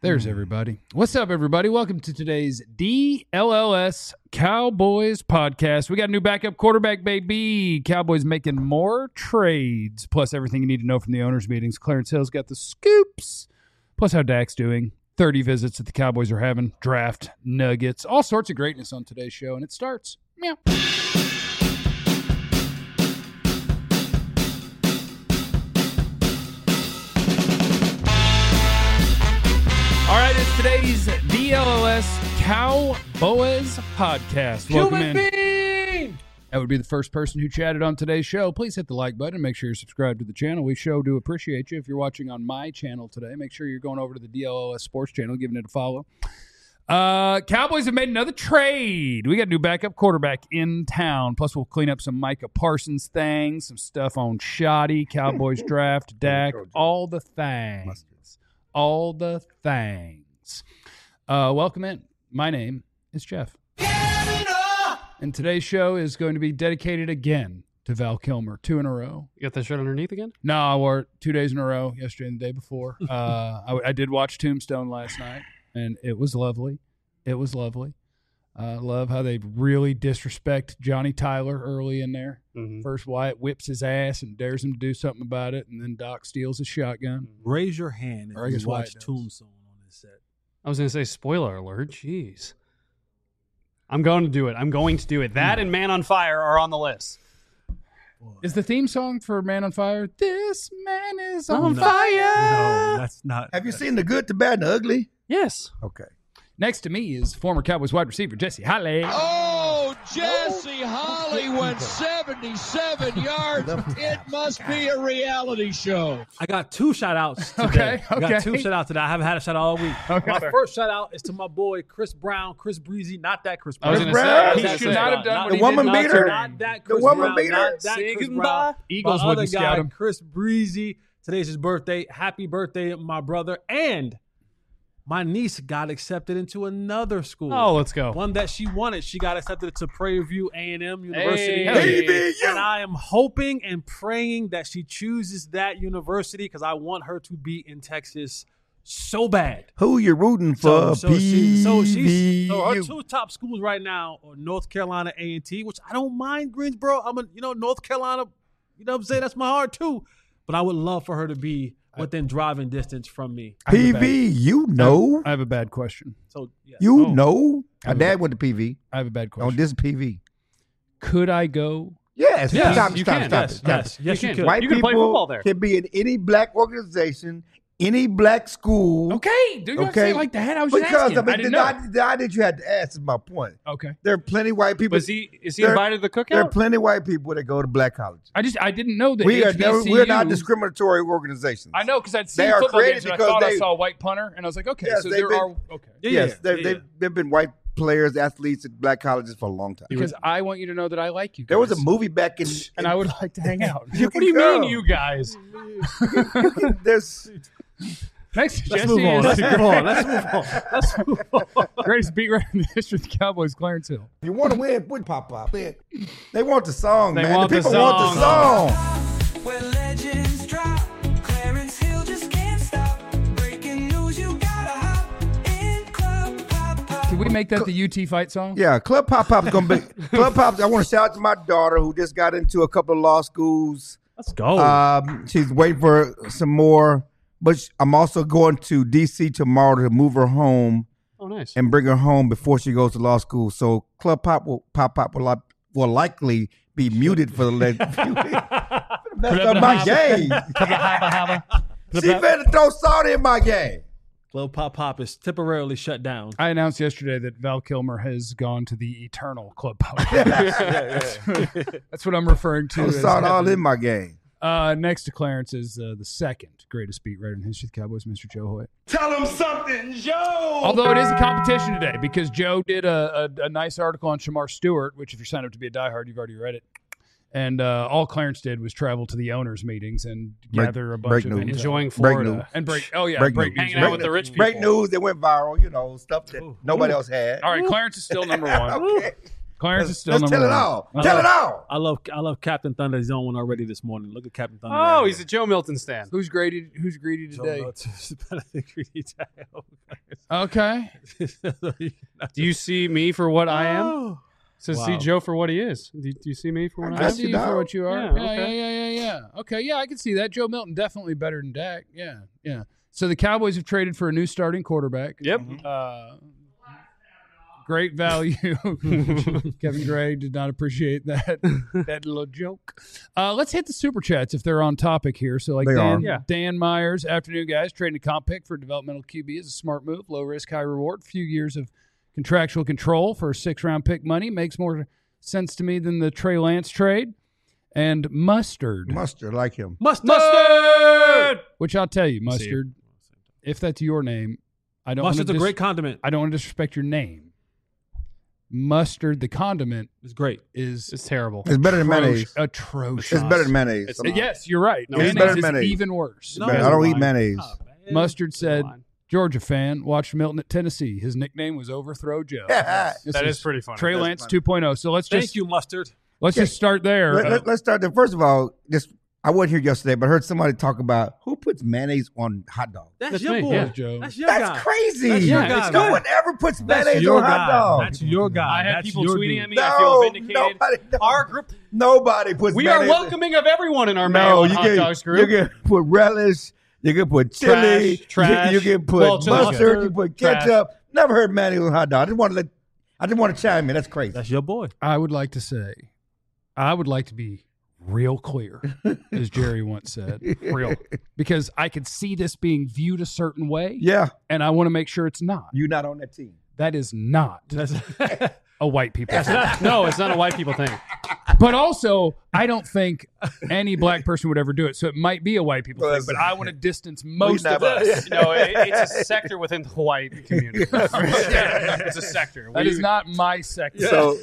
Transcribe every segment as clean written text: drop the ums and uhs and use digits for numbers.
There's everybody. What's up, everybody? Welcome to today's DLLS Cowboys podcast. We got a new backup quarterback, baby. Cowboys making more trades, plus everything you need to know from the owners' meetings. Clarence Hill's got the scoops, plus how Dak's doing. 30 visits that the Cowboys are having, draft, nuggets, all sorts of greatness on today's show, and it starts. Meow. All right, it's today's DLLS Cowboys podcast. Welcome in. Being! That would be the first person who chatted on today's show. Please hit the like button and make sure you're subscribed to the channel. We sure do appreciate you. If you're watching on my channel today, make sure you're going over to the DLLS Sports channel, giving it a follow. Cowboys have made another trade. We got a new backup quarterback in town. Plus, we'll clean up some Micah Parsons things, some stuff on Shoddy, Cowboys draft, Dak, all the things. All the things. Welcome in. My name is Jeff. And today's show is going to be dedicated again to Val Kilmer. 2 in a row. You got that shirt underneath again? No, I wore it 2 days in a row, yesterday and the day before. I did watch Tombstone last night, and it was lovely. It was lovely. Love how they really disrespect Johnny Tyler early in there. Mm-hmm. First, Wyatt whips his ass and dares him to do something about it, and then Doc steals his shotgun. Raise your hand if you watch Tombstone on this set. I was going to say, spoiler alert. Jeez. I'm going to do it. I'm going to do it. That and Man on Fire are on the list. Is the theme song for Man on Fire, This Man is on Fire? No, that's not. Have you seen The Good, the Bad, and the Ugly? Yes. Okay. Next to me is former Cowboys wide receiver Jesse Holley. Oh, Jesse Holley went 77 yards. It must be a reality show. I got 2 shout-outs today. Okay. I got 2 shout-outs today. I haven't had a shout-out all week. Okay. My first shout-out is to my boy Chris Brown, Chris Breezy, not that Chris I was Brown. going to say. He should not have done what The he woman did not beater? to. Not that The Chris woman Brown. beater? Not that Say Chris goodbye. Brown. Eagles my wouldn't other scout guy, him. Chris Breezy. Today's his birthday. Happy birthday, my brother. And my niece got accepted into another school. Oh, let's go. One that she wanted. She got accepted to Prairie View A&M University. Hey. And I am hoping and praying that she chooses that university because I want her to be in Texas so bad. Who you rooting for? So her 2 top schools right now are North Carolina A&T, which I don't mind Greensboro. North Carolina, you know what I'm saying? That's my heart too. But I would love for her to be within driving distance from me. PV, you know. I have a bad question. So yeah. You know. My dad went to PV. I have a bad On question. this PV. Could I go? Yes. Yes, Stop you it. can. Yes, you can. could. White You can play people football there. can be in any black organization, any black school. Okay. Do you have to say it like that? I was just Because asking. I didn't know. the idea you had to ask is my point. Okay. There are plenty of white people. Is he There- invited to the There are cookout? plenty of white people that go to black colleges. I didn't know that We're not HBCU discriminatory organizations. I know because I'd seen They are football created games and I because thought I they- saw a white punter and I was like, okay, Yes, so they've there been- are okay. Yes, they've been white players, athletes at black colleges for a long time. Because I want you to know that I like you guys. There was a movie back in, and I would like to hang out. What do you mean, you guys? There's Next, Let's Jesse move on. is Let's move on. greatest beat writer in the history of the Cowboys, Clarence Hill. if you want to win, put pop up. They want the song, They man. want the the people want the song. song. Where legends drop, Clarence Hill just can't stop. Breaking news, you gotta hop in Club Pop Pop. Can we make that the UT fight song? Yeah, Club Pop Pop's gonna be Club Pop. I want to shout out to my daughter who just got into a couple of law schools. Let's go. She's waiting for some more, but I'm also going to DC tomorrow to move her home Oh, nice. and bring her home before she goes to law school. So Club Pop will likely be muted for the next few weeks. Messed up my game. She better throw salt in my game. Club Pop Pop is temporarily shut down. I announced yesterday that Val Kilmer has gone to the eternal Club Pop. That's what I'm referring to. Throw as salt all heaven. in my game. Next to Clarence is the second greatest beat writer in the history of the Cowboys, Mr. Joe Hoyt. Tell him something, Joe. Although it is a competition today because Joe did a nice article on Shamar Stewart, which if you're signed up to be a diehard, you've already read it. And all Clarence did was travel to the owners' meetings and gather a bunch of news. intel. Enjoying Break Florida. news. And break. Oh yeah, Break break news. news. Hanging out with the rich people. Break news that went viral, stuff that nobody else had. All right, Clarence is still number one. Okay. Clarence is still Let's number tell it one. all. Tell it all. I love Captain Thunder. He's on one already this morning. Look at Captain Thunder. Oh, he's a Joe Milton stan. Who's greedy today? Oh, Okay. Do you see me for what I am? So see Wow. Joe for what he is. Do you see me for what I I am? see you for what you are. Yeah, Yeah, okay. yeah. Okay, yeah, I can see that. Joe Milton definitely better than Dak. Yeah. So the Cowboys have traded for a new starting quarterback. Yep. Great value. Kevin Gray did not appreciate that little joke. Let's hit the super chats if they're on topic here. So like They are. Dan Myers, afternoon guys, trading a comp pick for a developmental QB is a smart move. Low risk, high reward. Few years of contractual control for a 6th-round pick money makes more sense to me than the Trey Lance trade. And Mustard, Like him. Mustard! which I'll tell you, Mustard, if that's your name, I don't. Mustard's a wanna great condiment. I don't want to disrespect your name. Mustard, the condiment, It's great. is It's terrible. It's better than mayonnaise. atrocious. It's better than mayonnaise. Yes, you're right. No, it's mayonnaise better than is mayonnaise. even worse. No, I don't eat it's mayonnaise. fine. Oh, man. Mustard said, Come on. Georgia fan, watched Milton at Tennessee. His nickname was Overthrow Joe. Yeah. This That is pretty funny. Trey That's Lance funny. 2.0. So let's Thank just you, Mustard. just start there. Let's start there. First of all, I wasn't here yesterday, but I heard somebody talk about who puts mayonnaise on hot dogs. That's, That's your me, boy. yeah. Joe. That's your That's guy. crazy. That's your Yeah, guy. it's No man. one ever puts That's mayonnaise your on hot guy. dogs. That's your guy. I had That's people your tweeting dude. at me. I feel vindicated. Nobody, Our group, nobody puts we are mayonnaise. welcoming of everyone in our No, Maryland you hot can, dogs you group. can put relish. You can put chili. Trash. You can put Well, chili's mustard. good. You put Trash. ketchup. Never heard mayonnaise on hot dog. I didn't want to chime in. That's crazy. That's your boy. I would like to say, I would like to be real clear, as Jerry once said, real, because I could see this being viewed a certain way, Yeah, and I want to make sure it's not. you're not on that team. That is not That's a white people thing. No, it's not a white people thing. But also, I don't think any black person would ever do it. So it might be a white people thing, but I want to distance most of us. No, it's a sector within the white community. It's a sector. That is not my sector. So,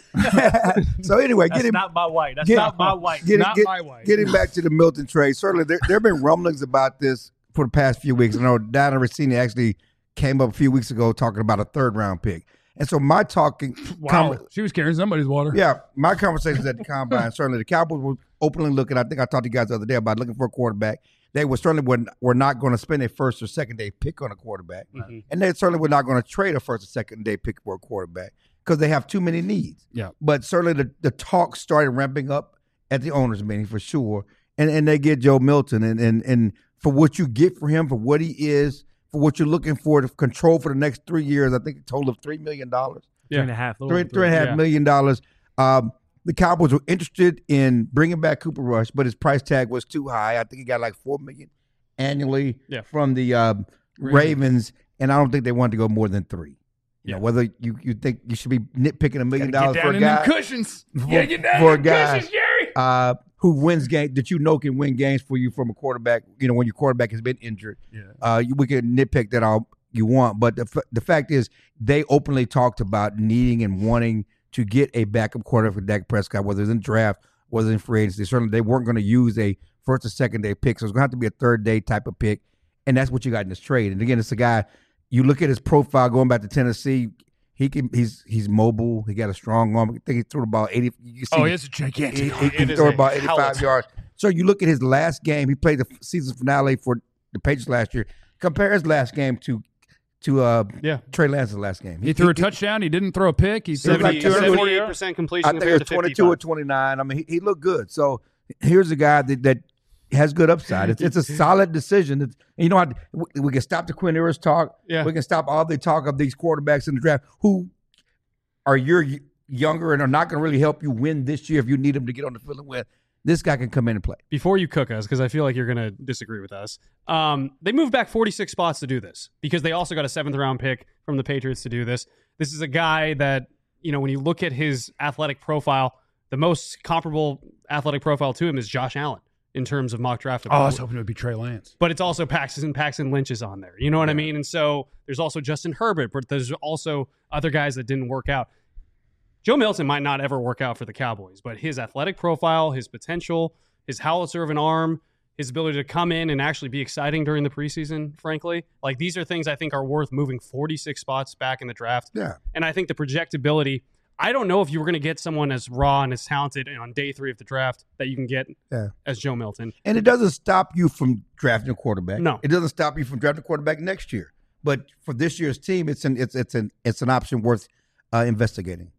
so anyway, That's getting not my white. That's get- not my white. Not my white. Getting back to the Milton trade, certainly there have been rumblings about this for the past few weeks. I know Diana Rossini actually came up a few weeks ago talking about a 3rd-round pick. And so my talking, Wow, she was carrying somebody's water. my conversations at the combine, certainly the Cowboys were openly looking. I think I talked to you guys the other day about looking for a quarterback. They were certainly were not going to spend a 1st or 2nd day pick on a quarterback, and they certainly were not going to trade a 1st or 2nd day pick for a quarterback because they have too many needs. Yeah. But certainly the talk started ramping up at the owners' meeting for sure, and they get Joe Milton and for what you get for him, for what he is, for what you're looking for to control for the next 3 years. I think a total of $3 million. Yeah. $3.5 million. The Cowboys were interested in bringing back Cooper Rush, but his price tag was too high. I think he got like $4 million annually from the Ravens, and I don't think they wanted to go more than $3 million. You know, whether you think you should be nitpicking $1 million Get for down a in guy them cushions. for a guy who wins games that can win games for you from a quarterback. You know, when your quarterback has been injured, we can nitpick that all you want, but the fact is they openly talked about needing and wanting to get a backup quarterback for Dak Prescott, whether it's in draft, whether in free agency. Certainly, they weren't going to use a 1st or 2nd day pick, so it's going to have to be a 3rd day type of pick, and that's what you got in this trade. And again, it's a guy. You look at his profile going back to Tennessee. He's mobile. He got a strong arm. I think he threw the ball 80. You see, It's a gigantic. he can throw about 85 yards. So you look at his last game. He played the season finale for the Patriots last year. Compare his last game to Trey Lance's last game. He threw a touchdown. He didn't throw a pick. He said like 78% completion I think it compared was to 22 55. or 29. I mean, he looked good. So here's a guy that has good upside. It's a solid decision. And you know, we can stop the Quinn Ewers talk. Yeah. We can stop all the talk of these quarterbacks in the draft who are younger and are not going to really help you win this year if you need them to get on the field and win. This guy can come in and play. Before you cook us, because I feel like you're going to disagree with us, they moved back 46 spots to do this because they also got a 7th-round pick from the Patriots to do this. This is a guy that, you know, when you look at his athletic profile, the most comparable athletic profile to him is Josh Allen in terms of mock draft. I was hoping it would be Trey Lance. But it's also Paxton Lynch is on there. You know what I mean? And so there's also Justin Herbert, but there's also other guys that didn't work out. Joe Milton might not ever work out for the Cowboys, but his athletic profile, his potential, his howitzer of an arm, his ability to come in and actually be exciting during the preseason, frankly, like these are things I think are worth moving 46 spots back in the draft. Yeah. And I think the projectability, I don't know if you were going to get someone as raw and as talented on day 3 of the draft that you can get as Joe Milton. And it doesn't stop you from drafting a quarterback. No. It doesn't stop you from drafting a quarterback next year. But for this year's team, it's an option worth investigating.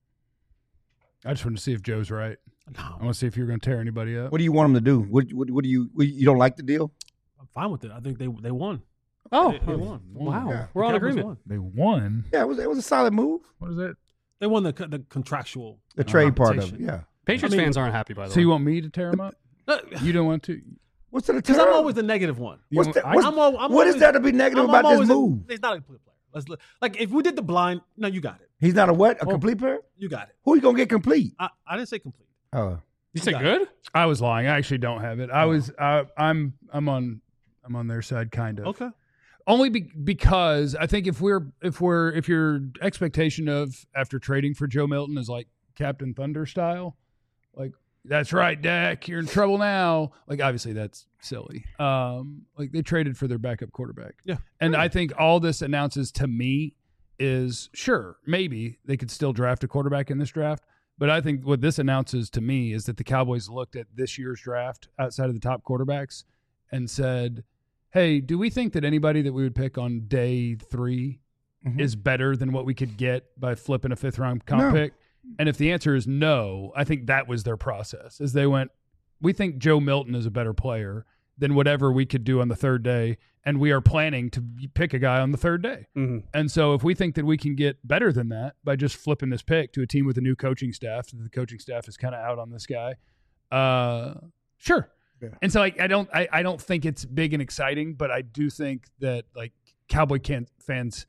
I just want to see if Joe's right. No. I want to see if you're going to tear anybody up. What do you want him to do? What do you don't like the deal? I'm fine with it. I think they won. Oh, They won. wow. Yeah. We're on Cowboys agreement. won. They won. Yeah, it was a solid move. What is that? They won the contractual. The trade part of it. compensation. Yeah. Patriots fans aren't happy, by the So way. you want me to tear him up? You don't want to? What's the Because I'm always the negative one. What's You that, want- what's, I'm al- I'm what is always- there to be negative about this move? He's not a complete player. Let's look. Like if we did the blind, no, you got it. He's not a what? A complete player? You got it. Who you gonna get complete? I didn't say complete. You said got good? I was lying. I actually don't have it. I'm on their side, kind of. Okay. Only because I think if your expectation of after trading for Joe Milton is like Captain Thunder style, like that's right, Dak, you're in trouble now. Like obviously that's silly. Like they traded for their backup quarterback. Yeah. And I think all this announces to me is sure, maybe they could still draft a quarterback in this draft. But I think what this announces to me is that the Cowboys looked at this year's draft outside of the top quarterbacks and said, hey, do we think that anybody that we would pick on day 3 is better than what we could get by flipping a 5th-round comp pick? And if the answer is no, I think that was their process, is they went, we think Joe Milton is a better player than whatever we could do on the 3rd day, and we are planning to pick a guy on the 3rd day. Mm-hmm. And so if we think that we can get better than that by just flipping this pick to a team with a new coaching staff, the coaching staff is kind of out on this guy, sure. Yeah. And so like I don't think it's big and exciting, but I do think that like Cowboy fans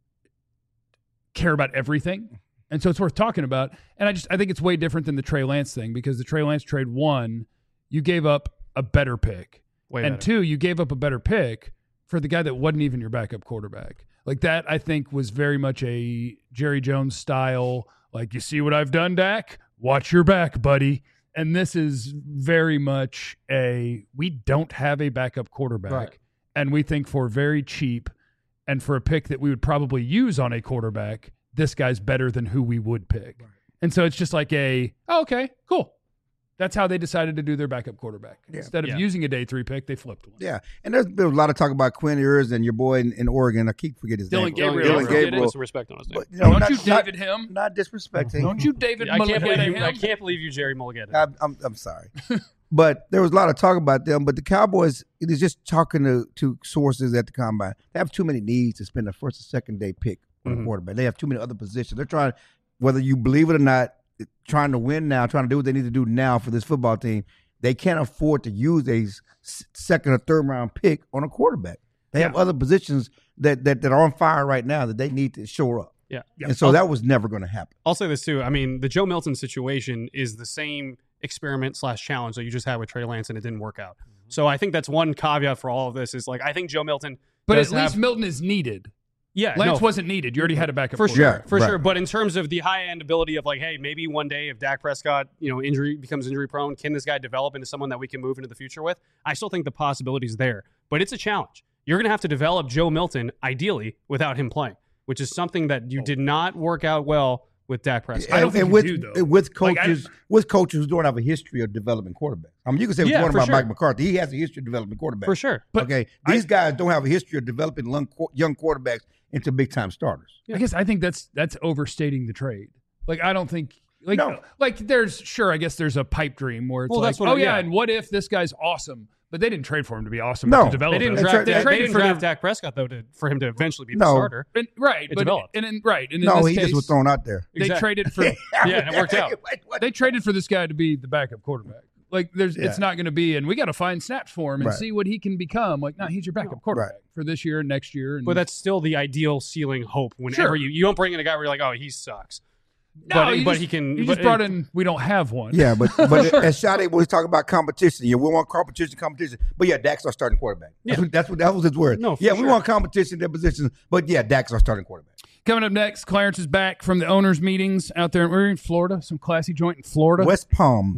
care about everything. And so it's worth talking about. And I think it's way different than the Trey Lance thing, because the Trey Lance trade, 1, you gave up a better pick. Way and better. 2, you gave up a better pick for the guy that wasn't even your backup quarterback. Like that, I think, was very much a Jerry Jones style, like, you see what I've done, Dak? Watch your back, buddy. And this is very much we don't have a backup quarterback. Right. And we think for very cheap and for a pick that we would probably use on a quarterback, this guy's better than who we would pick. Right. And so it's just like okay, cool. That's how they decided to do their backup quarterback. Yeah. Instead of using a day 3 pick, they flipped one. Yeah, and there's been a lot of talk about Quinn Ewers and your boy in Oregon. I keep forgetting his Dylan name. Gabriel. Dylan Gabriel. Put some respect on his name. But, you know, Don't you David him? Not disrespecting. Don't you David I can't believe Mulligata you. I him? can't believe you, Jerry Mulligata. I'm sorry. But there was a lot of talk about them. But the Cowboys, it is just talking to sources at the combine. They have too many needs to spend the 1st or 2nd day pick on a quarterback. They have too many other positions. They're trying, whether you believe it or not, trying to win now, trying to do what they need to do now for this football team. They can't afford to use a 2nd or 3rd round pick on a quarterback. They have other positions that are on fire right now that they need to shore up. Yeah. And so that was never going to happen. I'll say this too. I mean, the Joe Milton situation is the same experiment / challenge that you just had with Trey Lance, and it didn't work out. So I think that's one caveat for all of this is like, I think Joe Milton, But does at least have- Milton is needed. yeah, Lance no, wasn't needed. You already had a backup for quarterback. sure, for right. sure. But in terms of the high end ability of like, hey, maybe one day if Dak Prescott, becomes injury prone, can this guy develop into someone that we can move into the future with? I still think the possibility is there, but it's a challenge. You're going to have to develop Joe Milton ideally without him playing, which is something that you did not work out well with Dak Prescott. I don't think and you with, do, though. with Like, coaches, with coaches who don't have a history of developing quarterbacks. I mean, you can say what you Yeah, want for about sure. Mike McCarthy. He has a history of developing quarterbacks. For sure. But okay, these guys don't have a history of developing young quarterbacks into big time starters. I guess I think that's overstating the trade. Like I don't think No. like there's I guess there's a pipe dream where it's Well, like, that's what oh it- yeah, yeah. and what if this guy's awesome? But they didn't trade for him to be awesome. No. To develop They didn't him. draft They Dak, traded they didn't for draft their- Dak Prescott though for him to eventually be the No. starter. And, right, It but developed. and in No, this he case, just was thrown out there. they Exactly. traded for Yeah, and it worked out. they traded for this guy to be the backup quarterback. Like Yeah. it's not going to be, and we got to find snaps for him and Right. see what he can become. Like, no, he's your backup quarterback for this year and next year. And But that's still the ideal ceiling hope. Whenever Sure. you don't bring in a guy where you're like, oh, he sucks. no, but you but just- he can. You but just brought in. We don't have one. Yeah, but as Sade was talking about competition, yeah, we want competition. But yeah, Dak's our starting quarterback. That was his word. No, for yeah, we sure. want competition in their positions, but yeah, Dak's our starting quarterback. Coming up next, Clarence is back from the owners' meetings out there. We're in Florida, some classy joint in Florida. West Palm.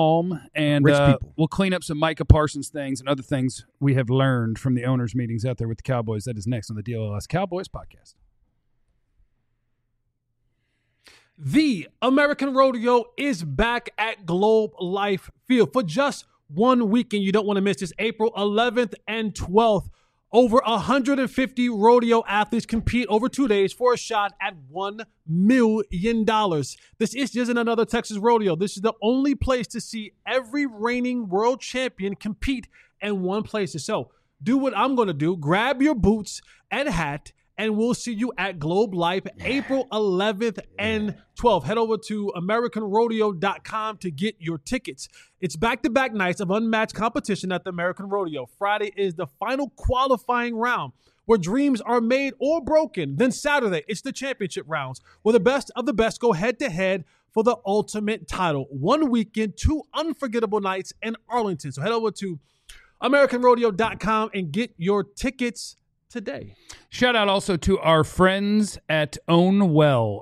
And Rich people. we'll clean up some Micah Parsons things and other things we have learned from the owners' meetings out there with the Cowboys. That is next on the DLS Cowboys podcast. The American Rodeo is back at Globe Life Field for just 1 weekend. You don't want to miss this. April 11th and 12th. Over 150 rodeo athletes compete over 2 days for a shot at $1 million. This isn't another Texas rodeo. This is the only place to see every reigning world champion compete in one place. So do what I'm going to do. Grab your boots and hat, and we'll see you at Globe Life April 11th and 12th. Head over to AmericanRodeo.com to get your tickets. It's back-to-back nights of unmatched competition at the American Rodeo. Friday is the final qualifying round where dreams are made or broken. Then Saturday, it's the championship rounds where the best of the best go head-to-head for the ultimate title. 1 weekend, 2 unforgettable nights in Arlington. So head over to AmericanRodeo.com and get your tickets today. Shout out also to our friends at Ownwell,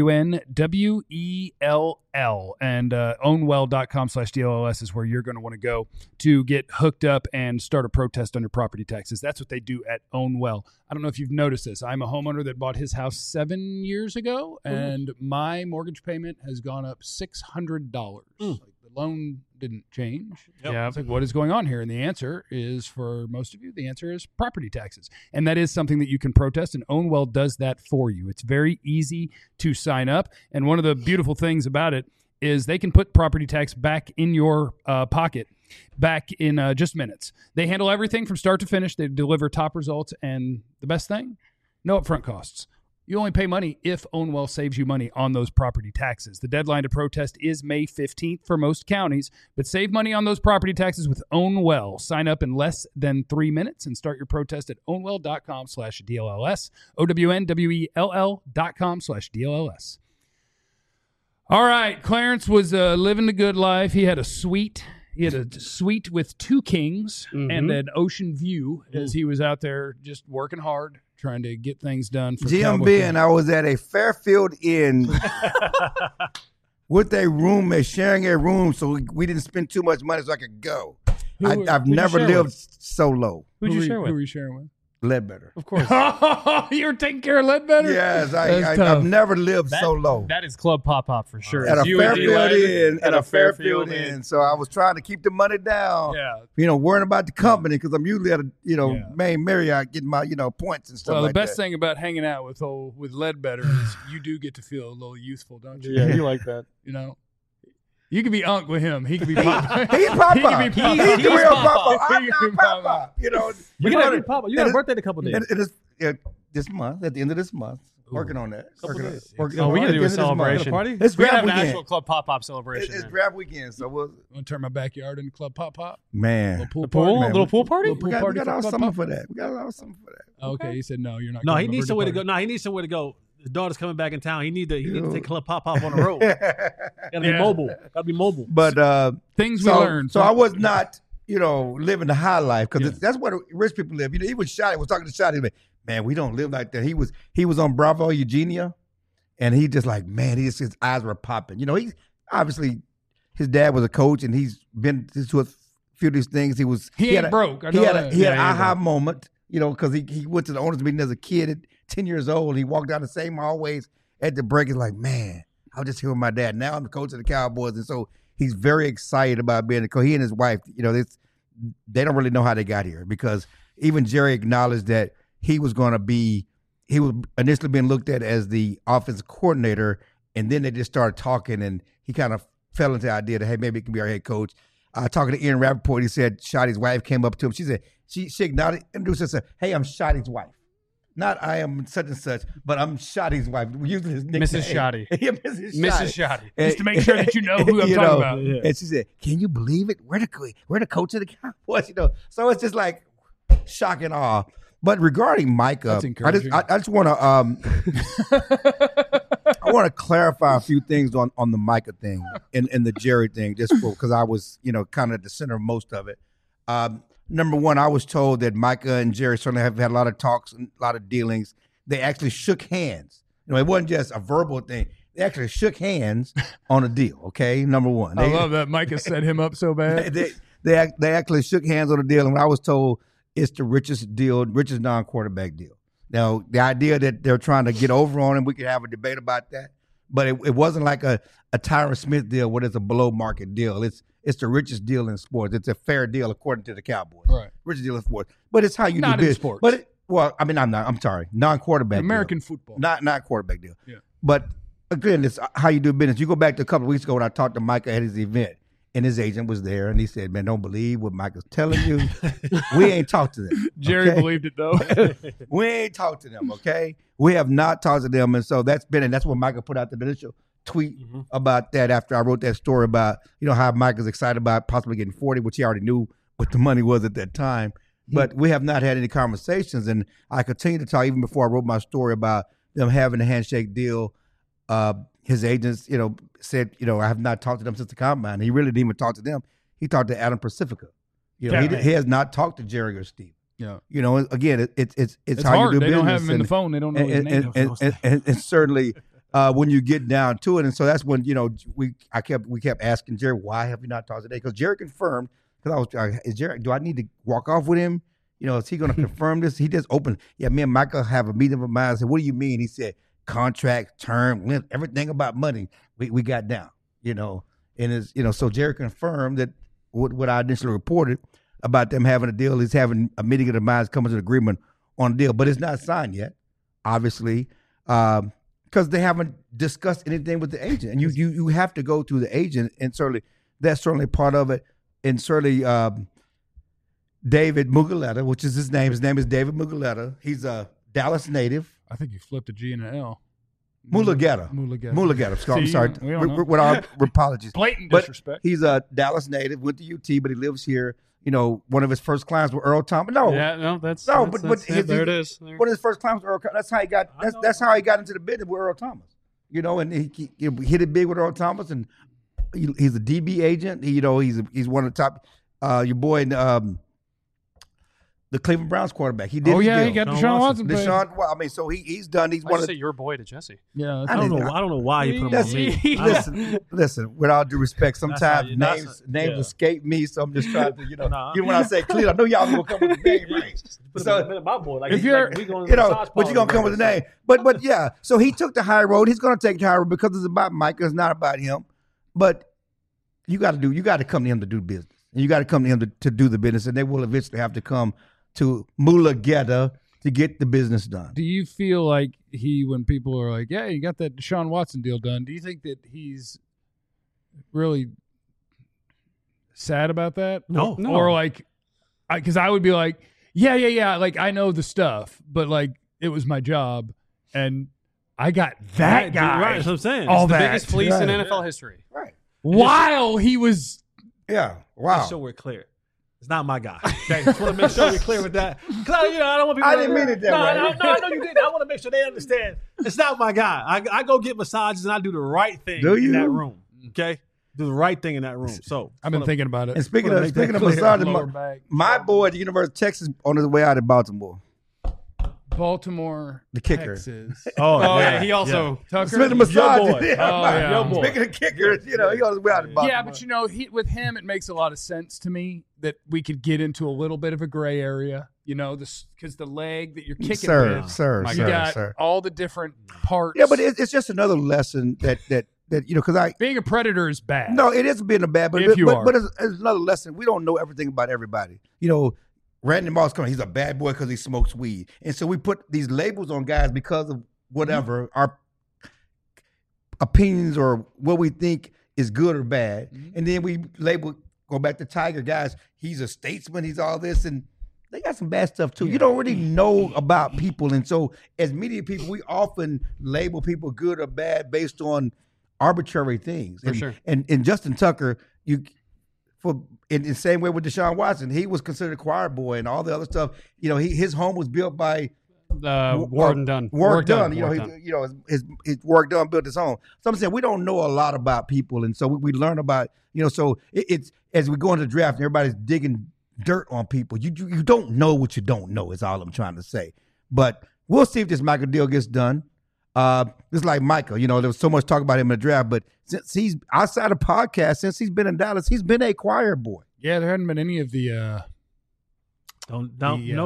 OWNWELL, and ownwell.com/DLLS is where you're going to want to go to get hooked up and start a protest on your property taxes. That's what they do at Ownwell. I don't know if you've noticed this. I'm a homeowner that bought his house 7 years ago, and my mortgage payment has gone up $600. Like, the loan didn't change. Yeah. It's like, what is going on here? And the answer is, for most of you, the answer is property taxes. And that is something that you can protest, and Ownwell does that for you. It's very easy to sign up. And one of the beautiful things about it is they can put property tax back in your pocket back in just minutes. They handle everything from start to finish. They deliver top results. And the best thing, no upfront costs. You only pay money if Ownwell saves you money on those property taxes. The deadline to protest is May 15th for most counties, but save money on those property taxes with Ownwell. Sign up in less than 3 minutes and start your protest at ownwell.com/DLLS, OWNWELL.com/DLLS. All right, Clarence was living the good life. He had a suite. He had a suite with 2 kings and an ocean view as he was out there just working hard, trying to get things done. For GMB and I was at a Fairfield Inn with a roommate, sharing a room, so we didn't spend too much money so I could go. I've never lived so low. Who'd you share with? Who were you sharing with? Ledbetter. Of course. You were taking care of Ledbetter? Yes, That's I've tough. never lived so low. That is Club Pop for sure. At a It's you and Fairfield D-Leg Inn, at a Fairfield Inn. So I was trying to keep the money down. Yeah. Worrying about the company because I'm usually at a main Marriott getting my points and stuff Well, like the best that. thing about hanging out with Ledbetter is you do get to feel a little youthful, don't you? Yeah, you like that. You can be Unc with him. He can be Pop. He's Papa. He can be Papa. He's the real Papa. He I'm can be not Papa. You got to Papa. You got a birthday in a couple days. It is this month, at the end of this month. Working on that. Couple days. Oh, we got to do a celebration. Party? It's We got to draft have an weekend. actual Club Pop celebration. It's man. draft weekend, so we'll. I'm going to turn my backyard into Club Pop. Man, Little pool The pool? party. Man, Little pool party? Little we got party all for Club summer Pop. for that. We got all summer for that. Okay, he said no. You're not. No, going he to needs my somewhere to birthday go. No, he needs somewhere to go. The daughter's coming back in town. He need to take Club Pop on the road. Gotta be mobile. Gotta be mobile. But party. Things we learned. So I was not, living the high life because that's where rich people live. Even Shotty was talking to Shotty, like, man, we don't live like that. He was on Bravo, Eugenia, and he just like, man, his eyes were popping. He obviously his dad was a coach, and he's been to a few of these things. He ain't broke. I He know had that. he had Yeah, an he ain't aha moment, because he went to the owners meeting as a kid at 10 years old. He walked down the same hallways at the break. He's like, man, I was just here with my dad. Now I'm the coach of the Cowboys, and so he's very excited about being a coach. He and his wife, they don't really know how they got here because even Jerry acknowledged that he was initially being looked at as the offensive coordinator, and then they just started talking, and he kind of fell into the idea that, hey, maybe it can be our head coach. Talking to Ian Rappaport, he said Shotty's wife came up to him. She said, she acknowledged, introduced herself, hey, I'm Shotty's wife. Not I am such and such, but I'm Shotty's wife. We're using his nickname. Mrs. Shotty. Yeah, Mrs. Shotty. Mrs. Shotty. Just to make sure that you know who I'm talking about. Yeah. And she said, can you believe it? We're the coach of the Cowboys, So it's just like shock and awe. But regarding Micah, That's encouraging. I just want to I want to clarify a few things on the Micah thing and the Jerry thing, just because I was kind of at the center of most of it. Number one, I was told that Micah and Jerry certainly have had a lot of talks and a lot of dealings. They actually shook hands. It wasn't just a verbal thing. They actually shook hands on a deal. Okay, number one. I love that Micah set him up so bad. They actually shook hands on a deal, and I was told it's the richest non-quarterback deal. Now, the idea that they're trying to get over on him, we could have a debate about that. But it wasn't like a Tyron Smith deal where it's a below market deal. It's the richest deal in sports. It's a fair deal according to the Cowboys. Right. Richest deal in sports. But it's how you Not do in business. sports. But I'm sorry. Non-quarterback American deal. football. Not quarterback deal. Yeah. But again, it's how you do business. You go back to a couple of weeks ago when I talked to Micah at his event, and his agent was there, and he said, "Man, don't believe what Micah's telling you. We ain't talked to them." Jerry okay? believed it though. We ain't talked to them, okay? We have not talked to them, and so that's what Micah put out the initial tweet about that after I wrote that story about, how Micah's excited about possibly getting 40, which he already knew what the money was at that time. But we have not had any conversations, and I continue to talk even before I wrote my story about them having a handshake deal. His agents, said, I have not talked to them since the combine. He really didn't even talk to them. He talked to Adam Pacifica. He has not talked to Jerry or Steve. Yeah. Again, it's how hard. you do They business. don't have him in the phone. They don't know his name. And certainly when you get down to it, and so that's when we kept asking Jerry, why have you not talked today? Because Jerry confirmed. Because is Jerry? Do I need to walk off with him? Is he going to confirm this? He just opened. Yeah, me and Michael have a meeting of mine. I said, what do you mean? He said, contract, term, length, everything about money. We got down. And it's so Jerry confirmed that what I initially reported about them having a deal is having a meeting of the minds coming to an agreement on a deal, but it's not signed yet, obviously, because they haven't discussed anything with the agent, and you have to go through the agent, and certainly that's certainly part of it, and certainly David Muguleta, which is his name. His name is David Muguleta. He's a Dallas native. I think you flipped a G and an L. Mulugeta. I'm sorry. we don't know. With our apologies. Blatant But disrespect. he's a Dallas native, went to UT, but he lives here. One of his first clients were Earl Thomas. But There it is. One of his first clients was Earl. That's how he got. That's how he got into the business with Earl Thomas. And he hit it big with Earl Thomas, and he's a DB agent. He's one of the top. Your boy, the Cleveland Browns quarterback. He did. Oh his yeah, deal. he got Deshaun Watson. So he's done. He's Why one did of you say your boy to Jesse? Yeah, I don't know why he put him on me. Listen. With all due respect, sometimes names escape me, so I'm just trying to, Even when I say Cleveland, I know y'all gonna come with the name, right? So my boy, like if you're, but but you're gonna come with the name. But yeah, so he took the high road. He's gonna take the high road because it's about Micah. It's not about him. But you got to come to him to do business, and you got to come to him to do the business, and they will eventually have to come to Mulugeta to get the business done. do you feel like when people are like, yeah, you got that Deshaun Watson deal done, do you think that he's really sad about that? No. Or like, because I would be like, yeah, like I know the stuff, but like it was my job, and I got that guy. Right, that's what I'm saying. All The that. biggest fleece in NFL history. Right. While he was. Yeah. Wow. Just so we're clear. It's not my guy. Okay, just want to make sure we're clear with that. Because I don't want people. I didn't mean it that way. No, I know you didn't. I want to make sure they understand. It's not my guy. I go get massages and I do the right thing in that room. Okay, do the right thing in that room. So I've been thinking about it. And speaking of massages, my boy at the University of Texas on his way out of Baltimore. Baltimore, The kicker. Texas. Oh yeah, he also Tucker. Speaking of massages, boy. yeah. Speaking of kickers, he on his way out of Baltimore. Yeah, but with him, it makes a lot of sense to me that we could get into a little bit of a gray area, because the leg that you're kicking with, you got all the different parts. Yeah, but it's just another lesson that because being a predator is bad. No, it is being a bad, but it's another lesson. We don't know everything about everybody. Randy Moss coming, he's a bad boy because he smokes weed. And so we put these labels on guys because of whatever, our opinions or what we think is good or bad. And then we go back to Tiger, guys, he's a statesman, he's all this, and they got some bad stuff too. You don't really know about people. And so as media people, we often label people good or bad based on arbitrary things. For sure. And Justin Tucker, in the same way with Deshaun Watson, he was considered a choir boy and all the other stuff. His home was built by Warren Dunn. Warren Dunn. His work done built his home. So I'm saying we don't know a lot about people, and so we learn about So it's as we go into the draft, and everybody's digging dirt on people. You don't know what you don't know. Is all I'm trying to say. But we'll see if this Michael deal gets done. It's like Michael, there was so much talk about him in the draft, but since he's outside of podcast, since he's been in Dallas, he's been a choir boy. Yeah, there hadn't been any of the Nope.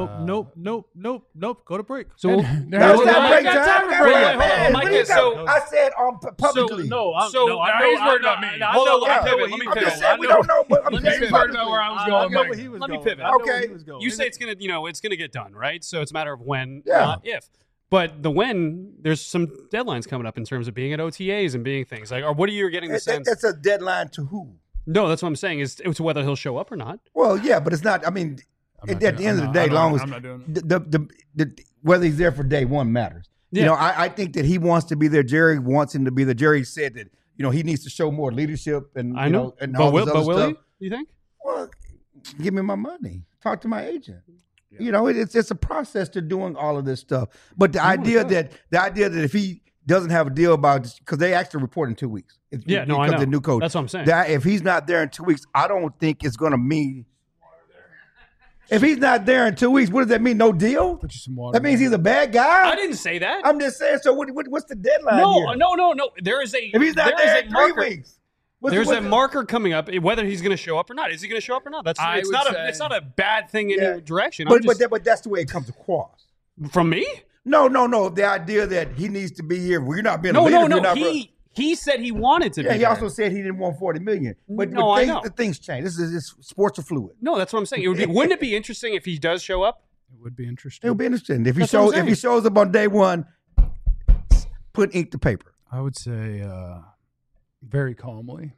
Go to break. So we'll, That was not break time. Mike, What do you so- got? I said publicly. he's worried about me. Hold on, let me pivot. I'm just saying we don't know. But I'm Let me saying pivot publicly. about where I was I going. know Mike. where he was Let me going. pivot. I know Okay. where he was going. You say it's gonna get done, right? So it's a matter of when, Yeah. not if. But the when, there's some deadlines coming up in terms of being at OTAs and being things like, or what are you getting the sense? It's a deadline to who? No, that's what I'm saying is to whether he'll show up or not. Well, yeah, but it's not. I mean, at the end of the day, long as I'm not doing it. the whether he's there for day one matters. Yeah. You know, I think that he wants to be there. Jerry wants him to be there. Jerry said that he needs to show more leadership and I know, and but all will, this but other will stuff. he? You think? Well, give me my money. Talk to my agent. It's a process to doing all of this stuff. But the idea that if he doesn't have a deal about, because they actually report in 2 weeks. Yeah, no, I because know. the new coach. That's what I'm saying. That if he's not there in 2 weeks, I don't think it's going to mean. If he's not there in 2 weeks, what does that mean? No deal? Put you some water. That means he's a bad guy. I didn't say that. I'm just saying. So what's the deadline? here? No. There is a. If he's not there in 3 weeks, There's a marker coming up, whether he's going to show up or not. Is he going to show up or not? It's not a bad thing in Yeah. your direction. But that's the way it comes across. From me? No. The idea that he needs to be here. We're not being a No. leader. We're not He said he wanted to be. Yeah, he there. also said he didn't want $40 million. But No, I know. things change. This sports are fluid. No, that's what I'm saying. Wouldn't it be interesting if he does show up? It would be interesting. It'll be interesting if he That's what I'm shows up on day one. Put ink to paper. I would say very calmly.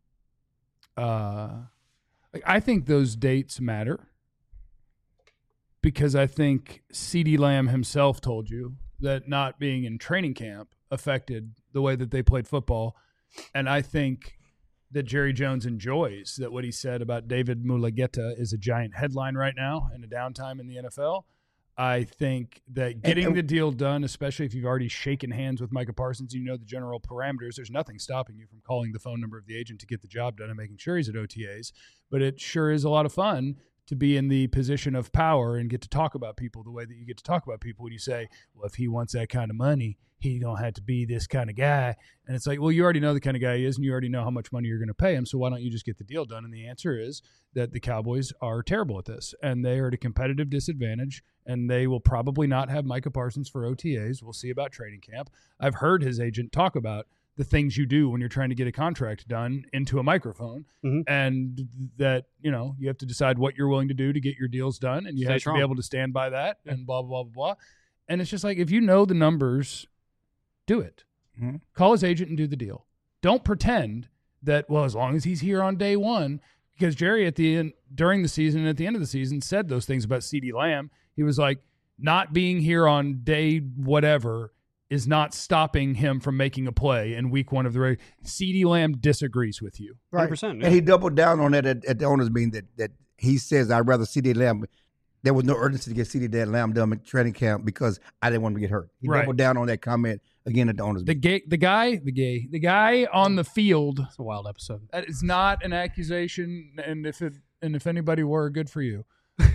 I think those dates matter because I think CeeDee Lamb himself told you that not being in training camp affected the way that they played football. And I think that Jerry Jones enjoys that what he said about David Mulageta is a giant headline right now in a downtime in the NFL. I think that getting the deal done, especially if you've already shaken hands with Micah Parsons, you know the general parameters, there's nothing stopping you from calling the phone number of the agent to get the job done and making sure he's at OTAs. But it sure is a lot of fun to be in the position of power and get to talk about people the way that you get to talk about people when you say, well, if he wants that kind of money, he's going to have to be this kind of guy. And it's like, well, you already know the kind of guy he is and you already know how much money you're going to pay him. So why don't you just get the deal done? And the answer is that the Cowboys are terrible at this and they are at a competitive disadvantage and they will probably not have Micah Parsons for OTAs. We'll see about training camp. I've heard his agent talk about the things you do when you're trying to get a contract done into a microphone, and that, you have to decide what you're willing to do to get your deals done, and you have to be able to stand by that, and blah, blah, blah, blah. And it's just like, if you know the numbers, do it. Mm-hmm. Call his agent and do the deal. Don't pretend that, well, as long as he's here on day one, because Jerry during the season and at the end of the season said those things about CeeDee Lamb. He was like, not being here on day whatever is not stopping him from making a play in week one of the race. CeeDee Lamb disagrees with you. Right. 100%. And he doubled down on that at the owners meeting that he says, I'd rather CeeDee Lamb. There was no urgency to get CeeDee Lamb done at training camp because I didn't want him to get hurt. He doubled down on that comment again at the owners meeting. The guy on the field. It's a wild episode. That is not an accusation, and if anybody were, good for you.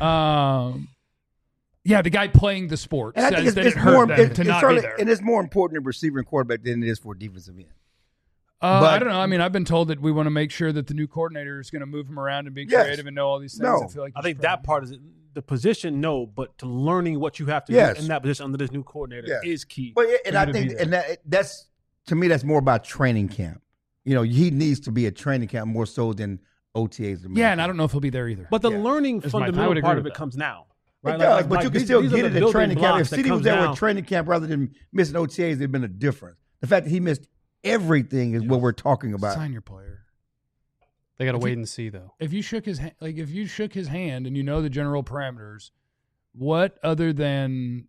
Yeah, the guy playing the sport and says that it hurt them to not be there. And it's more important in receiver and quarterback than it is for defensive end. I don't know. I mean, I've been told that we want to make sure that the new coordinator is going to move him around and be creative and know all these things. No. I think that part is the position, no, but to learning what you have to do in that position under this new coordinator is key. But and I think that's to me that's more about training camp. He needs to be at training camp more so than OTAs. Yeah, and I don't know if he'll be there either. But the learning fundamental part of it comes now. Right? It does, but like you can still get it at training camp. If that CeeDee was there down. with training camp rather than missing OTAs, there'd been a difference. The fact that he missed everything is what we're talking about. Sign your player. They got to wait and see, though. If you shook his hand and you know the general parameters, what other than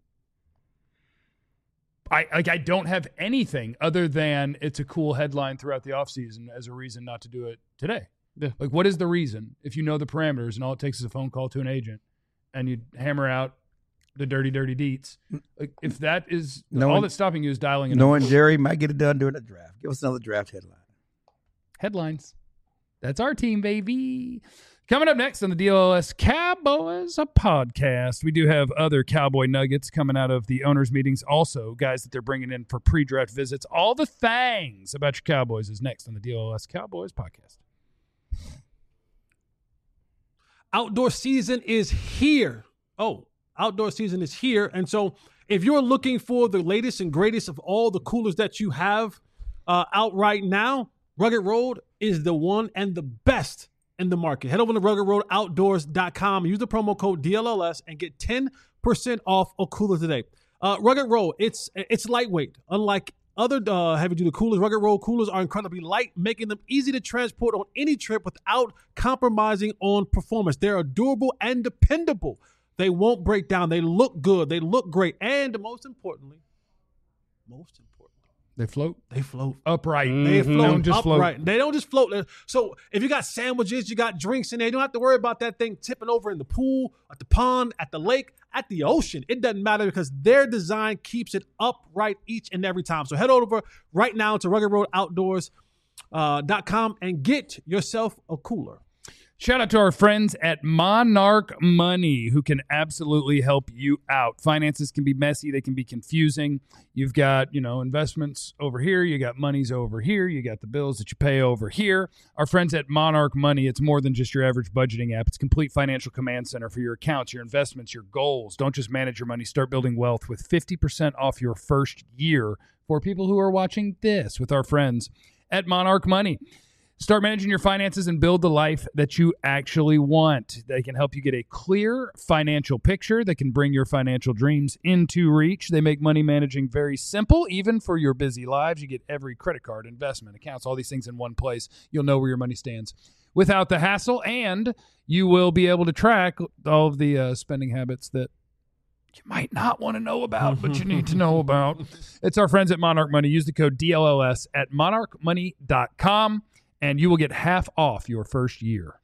I don't have anything other than it's a cool headline throughout the offseason as a reason not to do it today. Yeah. Like, what is the reason if you know the parameters and all it takes is a phone call to an agent and you hammer out the dirty deets? Like, if that is all that's stopping you is dialing in. Knowing Jerry might get it done during the draft. Give us another draft headline. Headlines. That's our team, baby. Coming up next on the DLS Cowboys, a podcast. We do have other Cowboy nuggets coming out of the owners' meetings. Also, guys that they're bringing in for pre-draft visits. All the things about your Cowboys is next on the DLS Cowboys podcast. Outdoor season is here. oh, outdoor season is here. And so if you're looking for the latest and greatest of all the coolers that you have out right now, Rugged Road is the one and the best in the market. Head over to ruggedroadoutdoors.com. Use the promo code DLLS and get 10% off a cooler today. Rugged Road, it's lightweight. Unlike other heavy-duty coolers, Rugged Road coolers are incredibly light, making them easy to transport on any trip without compromising on performance. They're durable and dependable. They won't break down. They look good. They look great. And most importantly, They float they float. upright. They float Don't just float. upright. They don't just float. So if you got sandwiches, you got drinks in there, you don't have to worry about that thing tipping over in the pool, at the pond, at the lake, at the ocean. It doesn't matter because their design keeps it upright each and every time. So head over right now to ruggedroadoutdoors.com and get yourself a cooler. Shout out to our friends at Monarch Money who can absolutely help you out. Finances can be messy. They can be confusing. You've got, investments over here. You got monies over here. You got the bills that you pay over here. Our friends at Monarch Money, it's more than just your average budgeting app. It's a complete financial command center for your accounts, your investments, your goals. Don't just manage your money. Start building wealth with 50% off your first year for people who are watching this with our friends at Monarch Money. Start managing your finances and build the life that you actually want. They can help you get a clear financial picture. They can bring your financial dreams into reach. They make money managing very simple, even for your busy lives. You get every credit card, investment, accounts, all these things in one place. You'll know where your money stands without the hassle, and you will be able to track all of the spending habits that you might not want to know about, but you need to know about. It's our friends at Monarch Money. Use the code DLLS at monarchmoney.com. and you will get half off your first year.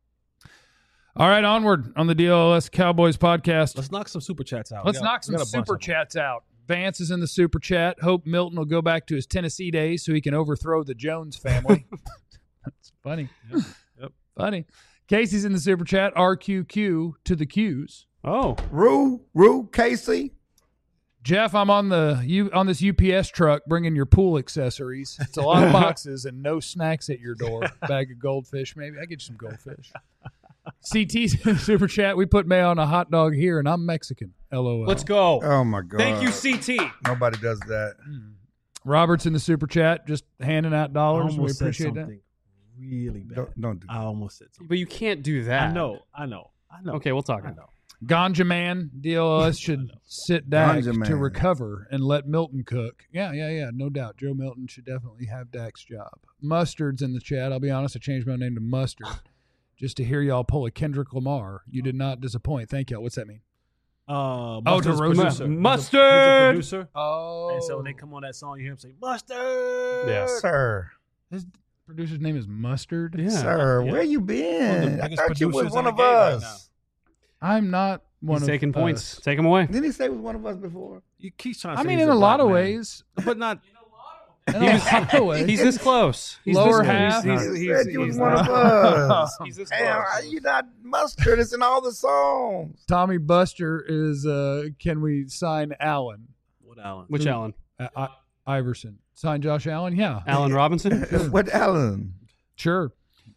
All right, onward on the DLLS Cowboys podcast. Let's knock some super chats out. Let's knock some super chats out. Vance is in the super chat. Hope Milton will go back to his Tennessee days so he can overthrow the Jones family. That's funny. Yep. Funny. Casey's in the super chat. RQQ to the Q's. Oh. Rue, Casey. Jeff, I'm on this UPS truck bringing your pool accessories. It's a lot of boxes and no snacks at your door. Bag of goldfish, maybe. I get you some goldfish. CT's in the super chat. We put mayo on a hot dog here, and I'm Mexican. LOL. Let's go. Oh, my God. Thank you, CT. Nobody does that. Robert's in the super chat, just handing out dollars. We appreciate that. Really bad. Don't do that. I almost said something. But you can't do that. I know. Okay, we'll talk. I know. Ganja Man, DLS should sit Dak Ganja to Man. recover and let Milton cook. Yeah, no doubt. Joe Milton should definitely have Dak's job. Mustard's in the chat. I'll be honest, I changed my name to Mustard just to hear y'all pull a Kendrick Lamar. You did not disappoint. Thank y'all. What's that mean? Mustard's to roast producer. Mustard! He's a producer. Oh. And so when they come on that song, you hear him say, Mustard! Yes. Sir. His producer's name is Mustard? Yeah. Sir, Yeah. where you been? I biggest thought you was producers one in of the game right us. I'm not one He's of taking points. us. Take him away. Didn't he say he was one of us before? You keep trying to I say mean, he's in a lot black of man. ways. But not. In a lot of ways. He's this close. He's Lower this half. Close. You said you was he's one not. of us. He's this Damn, close. you not Mustard. It's in all the songs. Tommy Buster is, can we sign Allen? What Allen? Which Allen? Iverson. Sign Josh Allen? Yeah. Allen Robinson? What Allen? Sure.